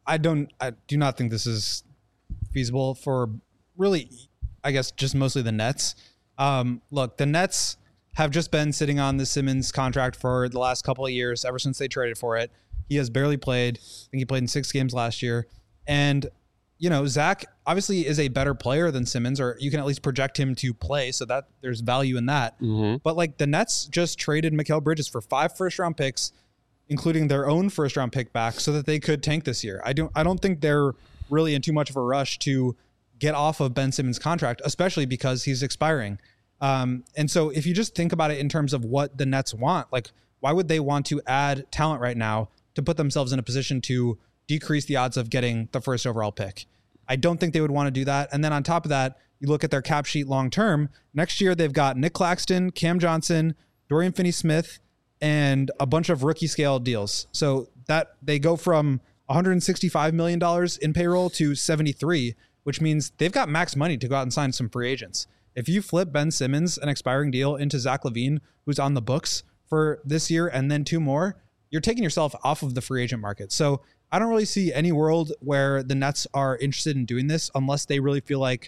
do not think this is feasible for really, I guess, just mostly the Nets. Look, the Nets have just been sitting on the Simmons contract for the last couple of years, ever since they traded for it. He has barely played. I think he played in 6 games last year. And, you know, Zach obviously is a better player than Simmons, or you can at least project him to play, so that there's value in that. Mm-hmm. But, like, the Nets just traded Mikal Bridges for 5 first-round picks, including their own first-round pick back, so that they could tank this year. I don't think they're really in too much of a rush to get off of Ben Simmons' contract, especially because he's expiring. And so if you just think about it in terms of what the Nets want, like, why would they want to add talent right now to put themselves in a position to decrease the odds of getting the first overall pick? I don't think they would want to do that. And then on top of that, you look at their cap sheet long term. Next year, they've got Nick Claxton, Cam Johnson, Dorian Finney-Smith, and a bunch of rookie scale deals. So that they go from $165 million in payroll to 73, which means they've got max money to go out and sign some free agents. If you flip Ben Simmons, an expiring deal, into Zach LaVine, who's on the books for this year, and then 2 more, you're taking yourself off of the free agent market. So I don't really see any world where the Nets are interested in doing this unless they really feel like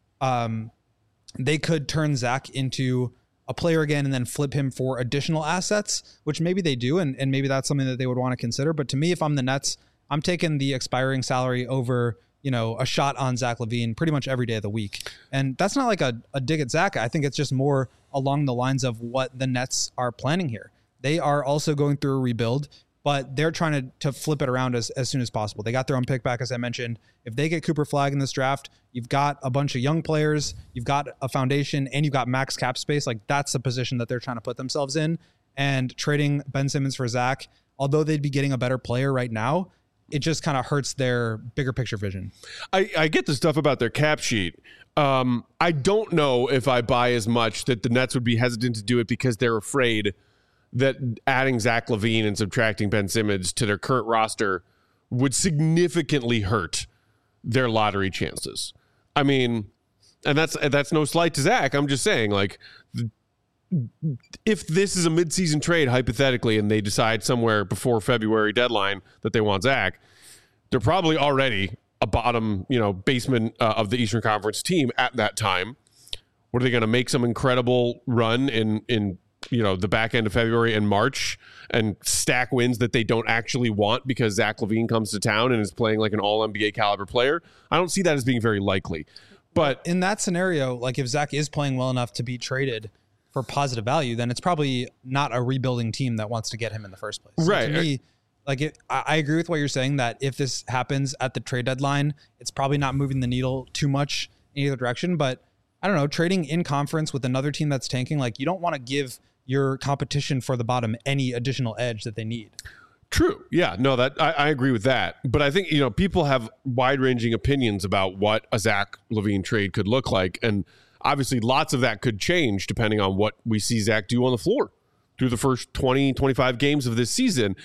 they could turn Zach into a player again and then flip him for additional assets, which maybe they do, and maybe that's something that they would want to consider. But to me, if I'm the Nets, I'm taking the expiring salary over, you know, a shot on Zach LaVine pretty much every day of the week. And that's not like a dig at Zach. I think it's just more along the lines of what the Nets are planning here. They are also going through a rebuild, but they're trying to flip it around as soon as possible. They got their own pick back, as I mentioned. If they get Cooper Flagg in this draft, you've got a bunch of young players, you've got a foundation, and you've got max cap space. Like, that's the position that they're trying to put themselves in. And trading Ben Simmons for Zach, although they'd be getting a better player right now, it just kind of hurts their bigger picture vision. I get the stuff about their cap sheet. I don't know if I buy as much that the Nets would be hesitant to do it because they're afraid that adding Zach LaVine and subtracting Ben Simmons to their current roster would significantly hurt their lottery chances. I mean, and that's no slight to Zach. I'm just saying, like, if this is a midseason trade, hypothetically, and they decide somewhere before February deadline that they want Zach, they're probably already a bottom, basement of the Eastern Conference team at that time. What are they going to make some incredible run in the back end of February and March and stack wins that they don't actually want because Zach LaVine comes to town and is playing like an all NBA caliber player. I don't see that as being very likely. But in that scenario, like if Zach is playing well enough to be traded for positive value, then it's probably not a rebuilding team that wants to get him in the first place. So right. To me, I agree with what you're saying that if this happens at the trade deadline, it's probably not moving the needle too much in either direction. But I don't know, trading in conference with another team that's tanking, like you don't want to give your competition for the bottom any additional edge that they need. True. Yeah, no, that I agree with that. But I think, people have wide ranging opinions about what a Zach LaVine trade could look like. And obviously lots of that could change depending on what we see Zach do on the floor through the first 20, 25 games of this season.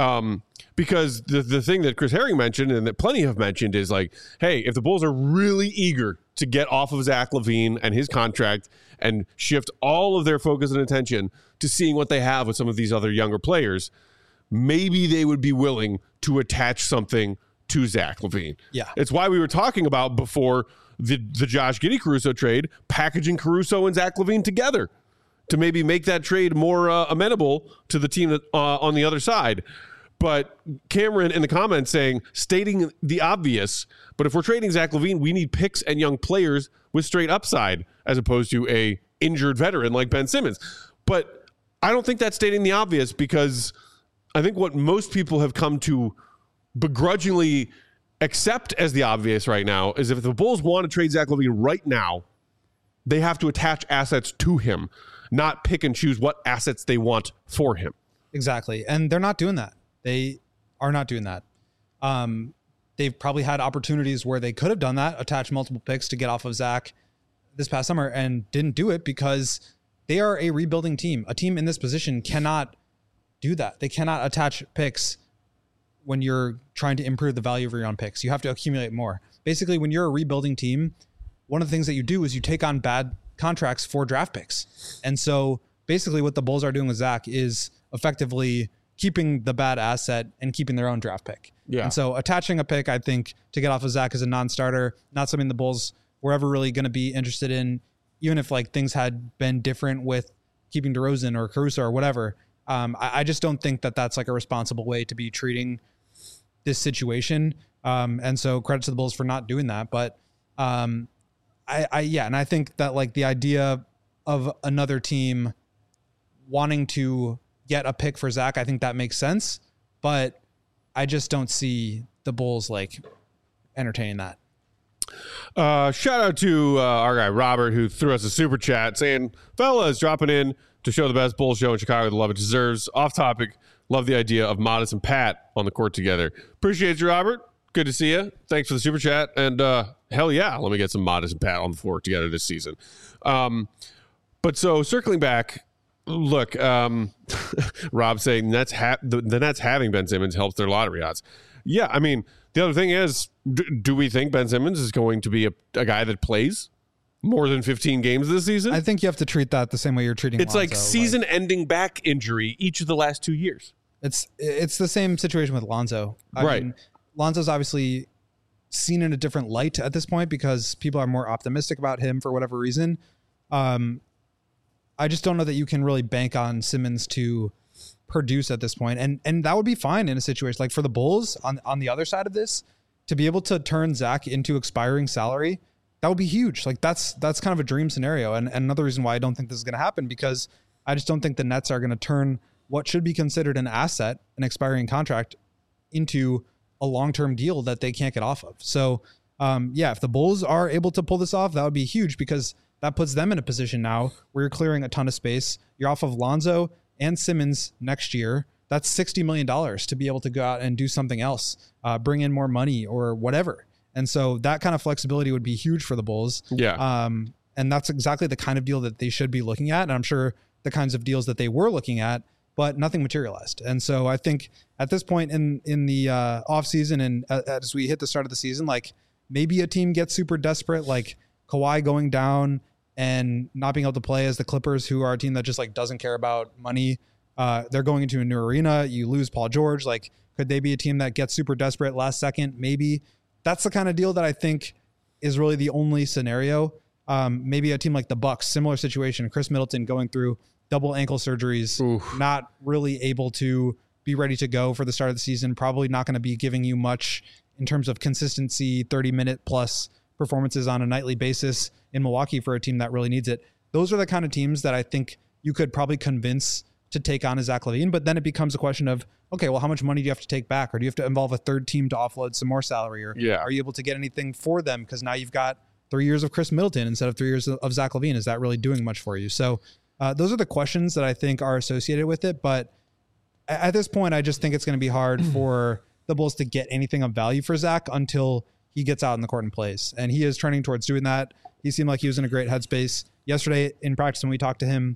Because the thing that Chris Herring mentioned and that plenty have mentioned is like, hey, if the Bulls are really eager to get off of Zach LaVine and his contract and shift all of their focus and attention to seeing what they have with some of these other younger players, maybe they would be willing to attach something to Zach LaVine. Yeah. It's why we were talking about before the Josh Giddey-Caruso trade, packaging Caruso and Zach LaVine together to maybe make that trade more amenable to the team that on the other side. But Cameron in the comments stating the obvious, but if we're trading Zach LaVine, we need picks and young players with straight upside as opposed to a injured veteran like Ben Simmons. But I don't think that's stating the obvious, because I think what most people have come to begrudgingly accept as the obvious right now is if the Bulls want to trade Zach LaVine right now, they have to attach assets to him, not pick and choose what assets they want for him. Exactly. And they're not doing that. They are not doing that. They've probably had opportunities where they could have done that, attach multiple picks to get off of Zach this past summer, and didn't do it because they are a rebuilding team. A team in this position cannot do that. They cannot attach picks when you're trying to improve the value of your own picks. You have to accumulate more. Basically, when you're a rebuilding team, one of the things that you do is you take on bad contracts for draft picks. And so basically what the Bulls are doing with Zach is effectively keeping the bad asset and keeping their own draft pick. Yeah. And so attaching a pick, I think, to get off of Zach as a non-starter, not something the Bulls were ever really going to be interested in, even if like things had been different with keeping DeRozan or Caruso or whatever. I just don't think that that's like a responsible way to be treating this situation. And so credit to the Bulls for not doing that. But and I think that like the idea of another team wanting to get a pick for Zach, I think that makes sense, but I just don't see the Bulls like entertaining that. Shout out to our guy Robert, who threw us a super chat saying, fellas, dropping in to show the best Bulls show in Chicago, the love it deserves. Off topic, love the idea of Modest and Pat on the court together. Appreciate you, Robert. Good to see you. Thanks for the super chat. And hell yeah, let me get some Modest and Pat on the floor together this season. But so circling back, look, Rob saying the Nets having Ben Simmons helps their lottery odds. Yeah, I mean, the other thing is, do we think Ben Simmons is going to be a guy that plays more than 15 games this season? I think you have to treat that the same way you're treating It's Lonzo. like season-ending back injury each of the last 2 years. It's the same situation with Lonzo. I mean, Lonzo's obviously seen in a different light at this point because people are more optimistic about him for whatever reason. I just don't know that you can really bank on Simmons to produce at this point. And that would be fine in a situation like for the Bulls on the other side of this, to be able to turn Zach into expiring salary. That would be huge. Like that's kind of a dream scenario. And another reason why I don't think this is going to happen, because I just don't think the Nets are going to turn what should be considered an asset, an expiring contract, into a long-term deal that they can't get off of. So if the Bulls are able to pull this off, that would be huge, because that puts them in a position now where you're clearing a ton of space. You're off of Lonzo and Simmons next year. That's $60 million to be able to go out and do something else, bring in more money or whatever. And so that kind of flexibility would be huge for the Bulls. Yeah. And that's exactly the kind of deal that they should be looking at. And I'm sure the kinds of deals that they were looking at, but nothing materialized. And so I think at this point in the off season and as we hit the start of the season, like maybe a team gets super desperate, like Kawhi going down and not being able to play as the Clippers, who are a team that just like doesn't care about money. They're going into a new arena. You lose Paul George. Like, could they be a team that gets super desperate last second? Maybe. That's the kind of deal that I think is really the only scenario. Maybe a team like the Bucks, similar situation, Chris Middleton going through double ankle surgeries, not really able to be ready to go for the start of the season, probably not going to be giving you much in terms of consistency, 30-minute plus performances on a nightly basis in Milwaukee for a team that really needs it. Those are the kind of teams that I think you could probably convince to take on a Zach LaVine, but then it becomes a question of, okay, well, how much money do you have to take back? Or do you have to involve a third team to offload some more salary? Or are you able to get anything for them? Because now you've got 3 years of Chris Middleton instead of 3 years of Zach LaVine. Is that really doing much for you? So those are the questions that I think are associated with it. But at this point, I just think it's going to be hard for the Bulls to get anything of value for Zach until he gets out in the court and plays. And he is trending towards doing that. He seemed like he was in a great headspace. Yesterday in practice when we talked to him,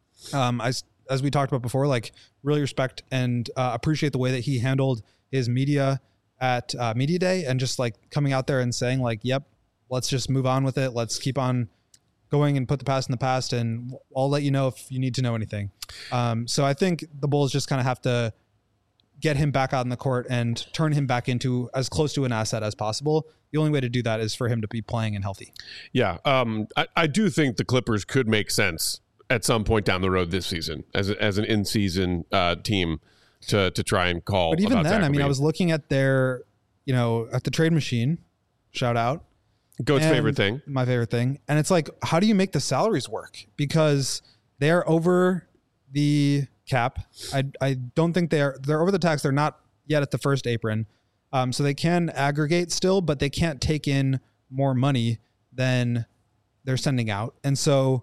as we talked about before, like really respect and appreciate the way that he handled his media at media day and just like coming out there and saying like, yep, let's just move on with it. Let's keep on going and put the past in the past. And I'll let you know if you need to know anything. So I think the Bulls just kind of have to get him back out in the court and turn him back into as close to an asset as possible. The only way to do that is for him to be playing and healthy. Yeah. I do think the Clippers could make sense at some point down the road this season as an in-season team to try and call. But even then, I mean, I was looking at their, at the trade machine, shout out. Goat's favorite thing. My favorite thing. And it's like, how do you make the salaries work? Because they're over the cap. I don't think they're over the tax. They're not yet at the first apron. So they can aggregate still, but they can't take in more money than they're sending out. And so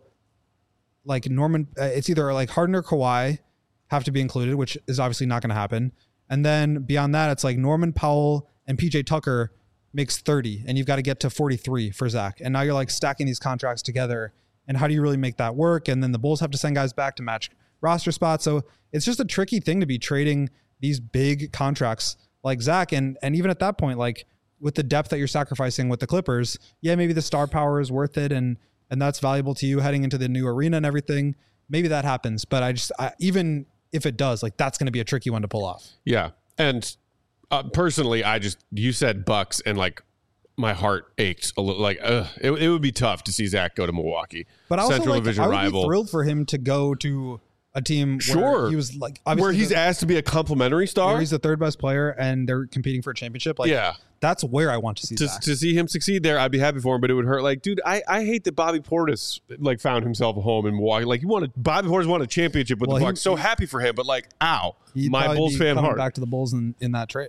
like it's either like Harden or Kawhi have to be included, which is obviously not going to happen. And then beyond that, it's like Norman Powell and PJ Tucker makes 30 and you've got to get to 43 for Zach. And now you're like stacking these contracts together. And how do you really make that work? And then the Bulls have to send guys back to match roster spots. So it's just a tricky thing to be trading these big contracts like Zach. And even at that point, like with the depth that you're sacrificing with the Clippers, yeah, maybe the star power is worth it. And that's valuable to you heading into the new arena and everything. Maybe that happens. But even if it does, like that's going to be a tricky one to pull off. Yeah. And personally, you said Bucks and like my heart ached a little. Like it would be tough to see Zach go to Milwaukee. But also, Central like, Division I would rival. be thrilled for him to go to a team where he was like, where he's asked to be a complimentary star. Where he's the third best player and they're competing for a championship. Like, that's where I want to see Zach. To see him succeed there, I'd be happy for him, but it would hurt. Like, dude, I hate that Bobby Portis like found himself a home in Milwaukee. Like, Bobby Portis won a championship with the Bucks. So happy for him, but like, ow, my Bulls fan heart. Back to the Bulls in that trade.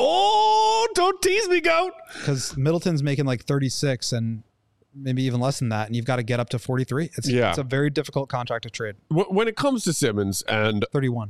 Oh, don't tease me, goat. Because Middleton's making like 36 and maybe even less than that, and you've got to get up to 43. It's a very difficult contract to trade. When it comes to Simmons and 31,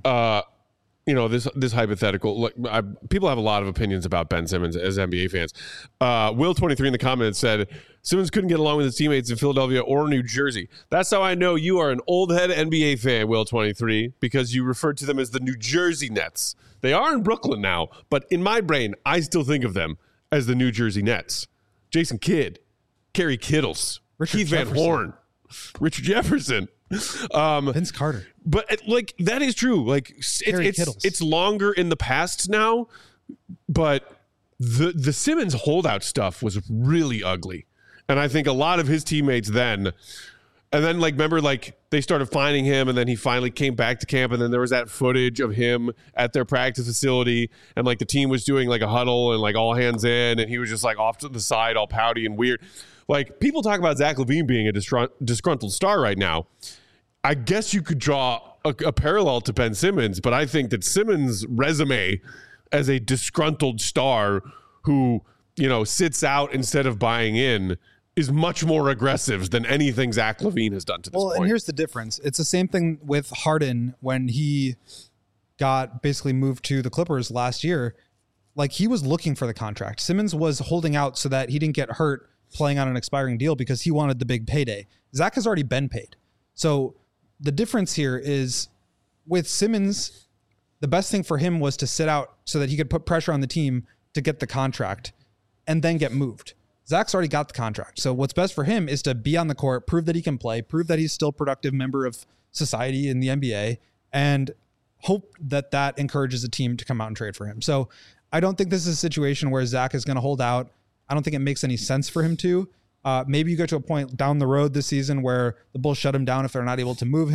this hypothetical, look, people have a lot of opinions about Ben Simmons as NBA fans. Will23 in the comments said Simmons couldn't get along with his teammates in Philadelphia or New Jersey. That's how I know you are an old head NBA fan, Will23, because you referred to them as the New Jersey Nets. They are in Brooklyn now, but in my brain, I still think of them as the New Jersey Nets. Jason Kidd, Kerry Kittles, Keith Van Horn, Richard Jefferson, Vince Carter. But like that is true. Like it's longer in the past now, but the Simmons holdout stuff was really ugly, and I think a lot of his teammates then. And then, like, remember, like, they started finding him, and then he finally came back to camp, and then there was that footage of him at their practice facility, and, like, the team was doing, like, a huddle and, like, all hands in, and he was just, like, off to the side, all pouty and weird. Like, people talk about Zach LaVine being a disgruntled star right now. I guess you could draw a parallel to Ben Simmons, but I think that Simmons' resume as a disgruntled star who, sits out instead of buying in is much more aggressive than anything Zach LaVine has done to this point. Well, and here's the difference. It's the same thing with Harden when he got basically moved to the Clippers last year. Like, he was looking for the contract. Simmons was holding out so that he didn't get hurt playing on an expiring deal because he wanted the big payday. Zach has already been paid. So the difference here is with Simmons, the best thing for him was to sit out so that he could put pressure on the team to get the contract and then get moved. Zach's already got the contract. So what's best for him is to be on the court, prove that he can play, prove that he's still a productive member of society in the NBA, and hope that that encourages a team to come out and trade for him. So I don't think this is a situation where Zach is going to hold out. I don't think it makes any sense for him to. Maybe you get to a point down the road this season where the Bulls shut him down if they're not able to move him,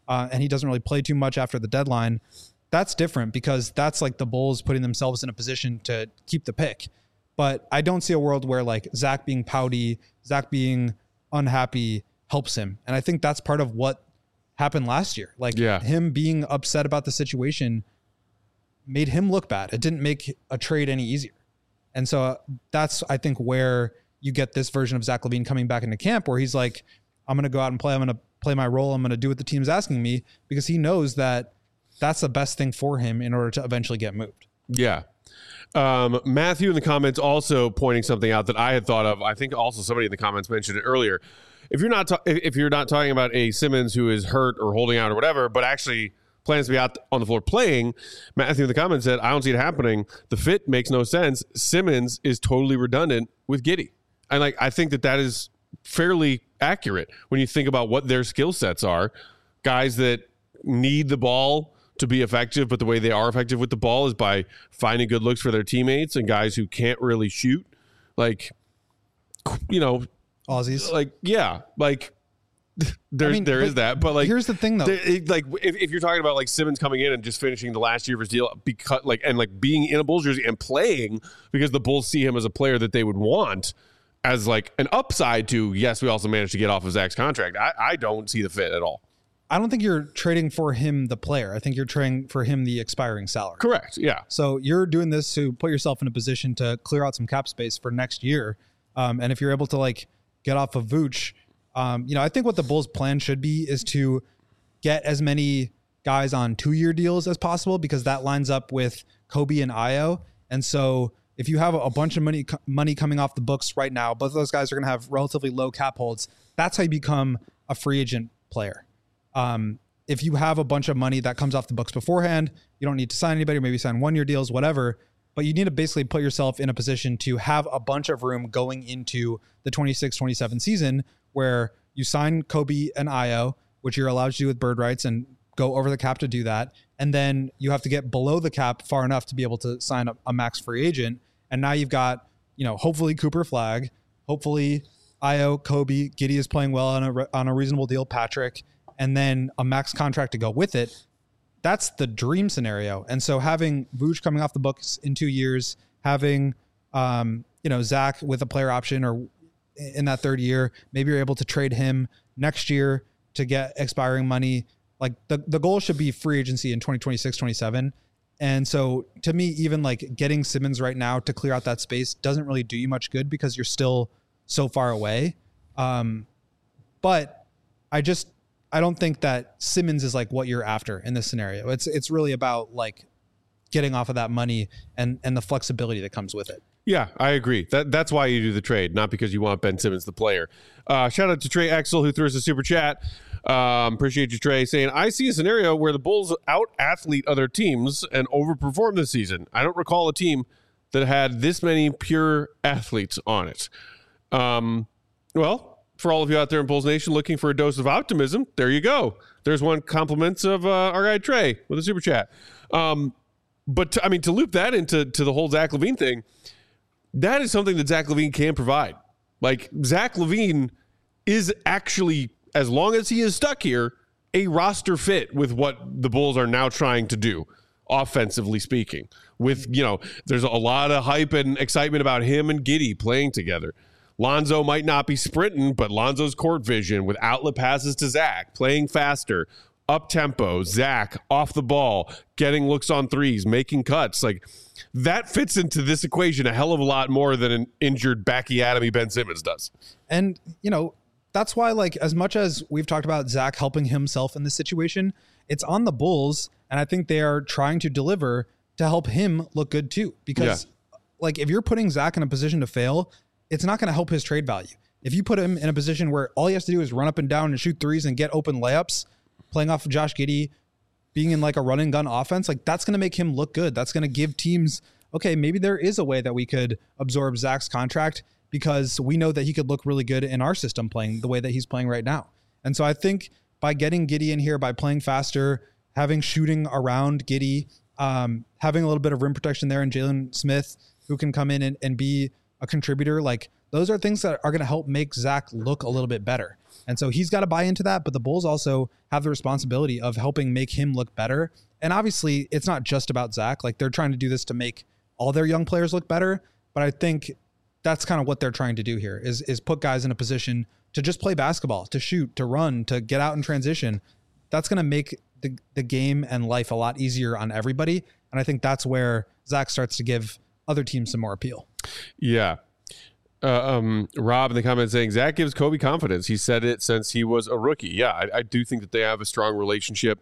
and he doesn't really play too much after the deadline, that's different because that's like the Bulls putting themselves in a position to keep the pick. But I don't see a world where like Zach being pouty, Zach being unhappy helps him. And I think that's part of what happened last year. Like him being upset about the situation made him look bad. It didn't make a trade any easier. And so that's, I think, where you get this version of Zach LaVine coming back into camp where he's like, I'm going to go out and play. I'm going to play my role. I'm going to do what the team's asking me, because he knows that that's the best thing for him in order to eventually get moved. Yeah. Matthew in the comments also pointing something out that I had thought of. I think also somebody in the comments mentioned it earlier. If you're not talking about a Simmons who is hurt or holding out or whatever, but actually plans to be out on the floor playing, Matthew in the comments said, I don't see it happening. The fit makes no sense. Simmons is totally redundant with Giddey. And I think that is fairly accurate when you think about what their skill sets are. Guys that need the ball to be effective, but the way they are effective with the ball is by finding good looks for their teammates, and guys who can't really shoot, Aussies. There is that, but here's the thing though. If you're talking about like Simmons coming in and just finishing the last year of his deal, because being in a Bulls jersey and playing because the Bulls see him as a player that they would want as like an upside to, yes, we also managed to get off of Zach's contract. I don't see the fit at all. I don't think you're trading for him, the player. I think you're trading for him, the expiring salary. Correct. Yeah. So you're doing this to put yourself in a position to clear out some cap space for next year. And if you're able to get off of Vooch, I think what the Bulls' plan should be is to get as many guys on 2-year deals as possible, because that lines up with Kobe and Ayo. And so if you have a bunch of money coming off the books right now, both of those guys are going to have relatively low cap holds. That's how you become a free agent player. If you have a bunch of money that comes off the books beforehand, you don't need to sign anybody, or maybe sign 1-year deals, whatever. But you need to basically put yourself in a position to have a bunch of room going into the 26-27 season, where you sign Kobe and Ayo, which you're allowed to do with bird rights and go over the cap to do that. And then you have to get below the cap far enough to be able to sign a max free agent. And now you've got, hopefully Cooper Flagg, hopefully Ayo, Kobe, Giddey is playing well on a reasonable deal, Patrick, and then a max contract to go with it. That's the dream scenario. And so having Vooch coming off the books in 2 years, having, Zach with a player option or in that 3rd year, maybe you're able to trade him next year to get expiring money. Like the goal should be free agency in 2026, 27. And so to me, even getting Simmons right now to clear out that space doesn't really do you much good, because you're still so far away. But I don't think that Simmons is what you're after in this scenario. It's really about getting off of that money and the flexibility that comes with it. Yeah, I agree. That's why you do the trade, not because you want Ben Simmons, the player. Shout out to Trey Exel, who threw us a super chat. Appreciate you, Trey, saying, I see a scenario where the Bulls out-athlete other teams and overperform this season. I don't recall a team that had this many pure athletes on it. Well, for all of you out there in Bulls Nation looking for a dose of optimism, there you go. There's one compliments of our guy Trey with a super chat. But to loop that into the whole Zach LaVine thing, that is something that Zach LaVine can provide. Zach LaVine is actually, as long as he is stuck here, a roster fit with what the Bulls are now trying to do, offensively speaking. With, there's a lot of hype and excitement about him and Giddey playing together. Lonzo might not be sprinting, but Lonzo's court vision with outlet passes to Zach, playing faster, up tempo, Zach off the ball, getting looks on threes, making cuts. That fits into this equation a hell of a lot more than an injured Backy Adamy Ben Simmons does. And, that's why, as much as we've talked about Zach helping himself in this situation, it's on the Bulls, and I think they are trying to deliver to help him look good too. Because, if you're putting Zach in a position to fail, it's not going to help his trade value. If you put him in a position where all he has to do is run up and down and shoot threes and get open layups, playing off of Josh Giddey, being in a run and gun offense, that's going to make him look good. That's going to give teams, okay, maybe there is a way that we could absorb Zach's contract, because we know that he could look really good in our system playing the way that he's playing right now. And so I think by getting Giddey in here, by playing faster, having shooting around Giddey, having a little bit of rim protection there, and Jalen Smith, who can come in and be a contributor. Like those are things that are going to help make Zach look a little bit better. And so he's got to buy into that, but the Bulls also have the responsibility of helping make him look better. And obviously it's not just about Zach. Like they're trying to do this to make all their young players look better. But I think that's kind of what they're trying to do here is put guys in a position to just play basketball, to shoot, to run, to get out in transition. That's going to make the game and life a lot easier on everybody. And I think that's where Zach starts to give other teams some more appeal. Yeah. Rob in the comments saying Zach gives Kobe confidence. He said it since he was a rookie. Yeah, I do think that they have a strong relationship.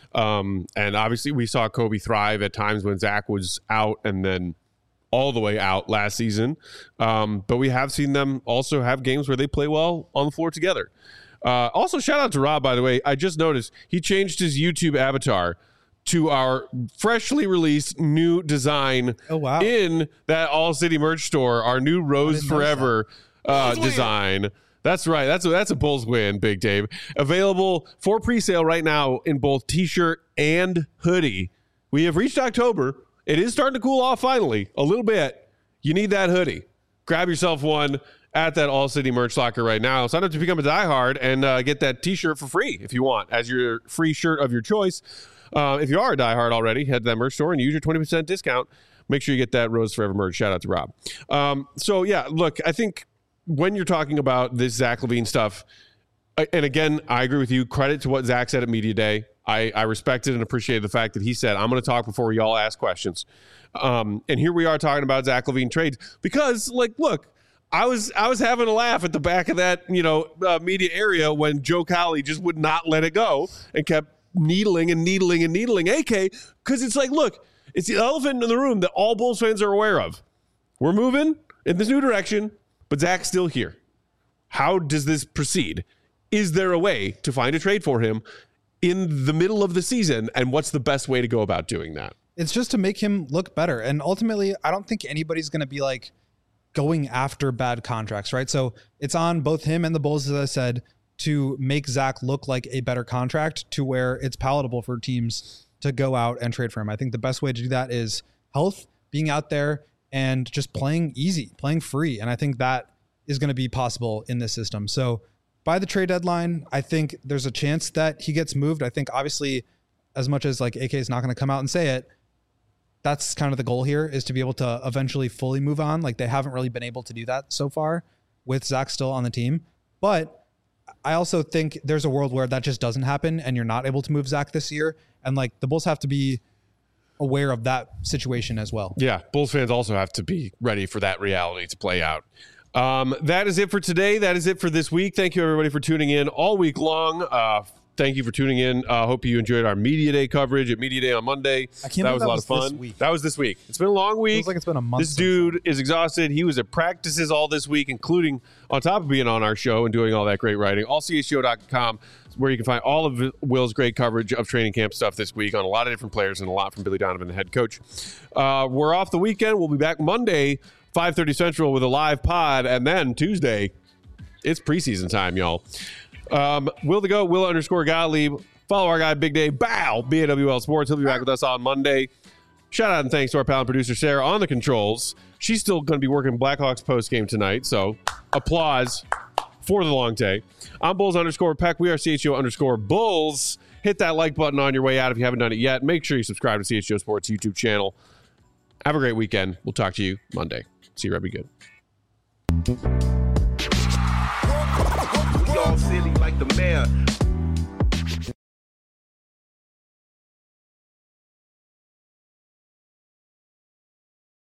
And obviously we saw Kobe thrive at times when Zach was out and then all the way out last season. But we have seen them also have games where they play well on the floor together. Also, shout out to Rob, by the way. I just noticed he changed his YouTube avatar to our freshly released new design in that All City merch store, our new Rose Forever design. That's right. That's a Bulls win, Big Dave. Available for pre-sale right now in both t-shirt and hoodie. We have reached October. It is starting to cool off finally a little bit. You need that hoodie. Grab yourself one at that All City merch locker right now. Sign up to become a diehard and get that t-shirt for free if you want as your free shirt of your choice. If you are a diehard already, head to that merch store and use your 20% discount. Make sure you get that Rose Forever merch. Shout out to Rob. So, yeah, look, I think when you're talking about this Zach LaVine stuff, and again, I agree with you. Credit to what Zach said at Media Day. I respected and appreciated the fact that he said, I'm going to talk before y'all ask questions. And here we are talking about Zach LaVine trades because, like, look, I was having a laugh at the back of that, media area when Joe Cowley just would not let it go and kept needling AK, because it's like, look, it's the elephant in the room that all Bulls fans are aware of. We're moving in this new direction, but Zach's still here. How does this proceed? Is there a way to find a trade for him in the middle of the season, and what's the best way to go about doing that? It's just to make him look better. And ultimately, I don't think anybody's going to be like going after bad contracts, right? So it's on both him and the Bulls, as I said, to make Zach look like a better contract to where it's palatable for teams to go out and trade for him. I think the best way to do that is health, being out there and just playing easy, playing free. And I think that is going to be possible in this system. So by the trade deadline, I think there's a chance that he gets moved. I think obviously, as much as like AK is not going to come out and say it, that's kind of the goal here, is to be able to eventually fully move on. Like they haven't really been able to do that so far with Zach still on the team. But I also think there's a world where that just doesn't happen and you're not able to move Zach this year. And like the Bulls have to be aware of that situation as well. Yeah. Bulls fans also have to be ready for that reality to play out. That is it for today. That is it for this week. Thank you everybody for tuning in all week long. Thank you for tuning in. Hope you enjoyed our Media Day coverage at Media Day on Monday. That was a lot of fun. That was this week. It's been a long week. Feels like it's been a month. This dude is exhausted. He was at practices all this week, including on top of being on our show and doing all that great writing. allchshow.com is where you can find all of Will's great coverage of training camp stuff this week on a lot of different players and a lot from Billy Donovan, the head coach. We're off the weekend. We'll be back Monday, 5:30 Central with a live pod. And then Tuesday, it's preseason time, y'all. Will the GOAT, Will_Gottlieb. Follow our guy, Big Dave Bow, BAWL Sports. He'll be back with us on Monday. Shout out and thanks to our pal and producer, Sarah, on the controls. She's still going to be working Blackhawks post-game tonight, so applause for the long day. I'm Bulls_Peck. We are CHGO_Bulls. Hit that like button on your way out if you haven't done it yet. Make sure you subscribe to CHGO Sports YouTube channel. Have a great weekend. We'll talk to you Monday. See you, Rebby. Good. All silly like the mayor.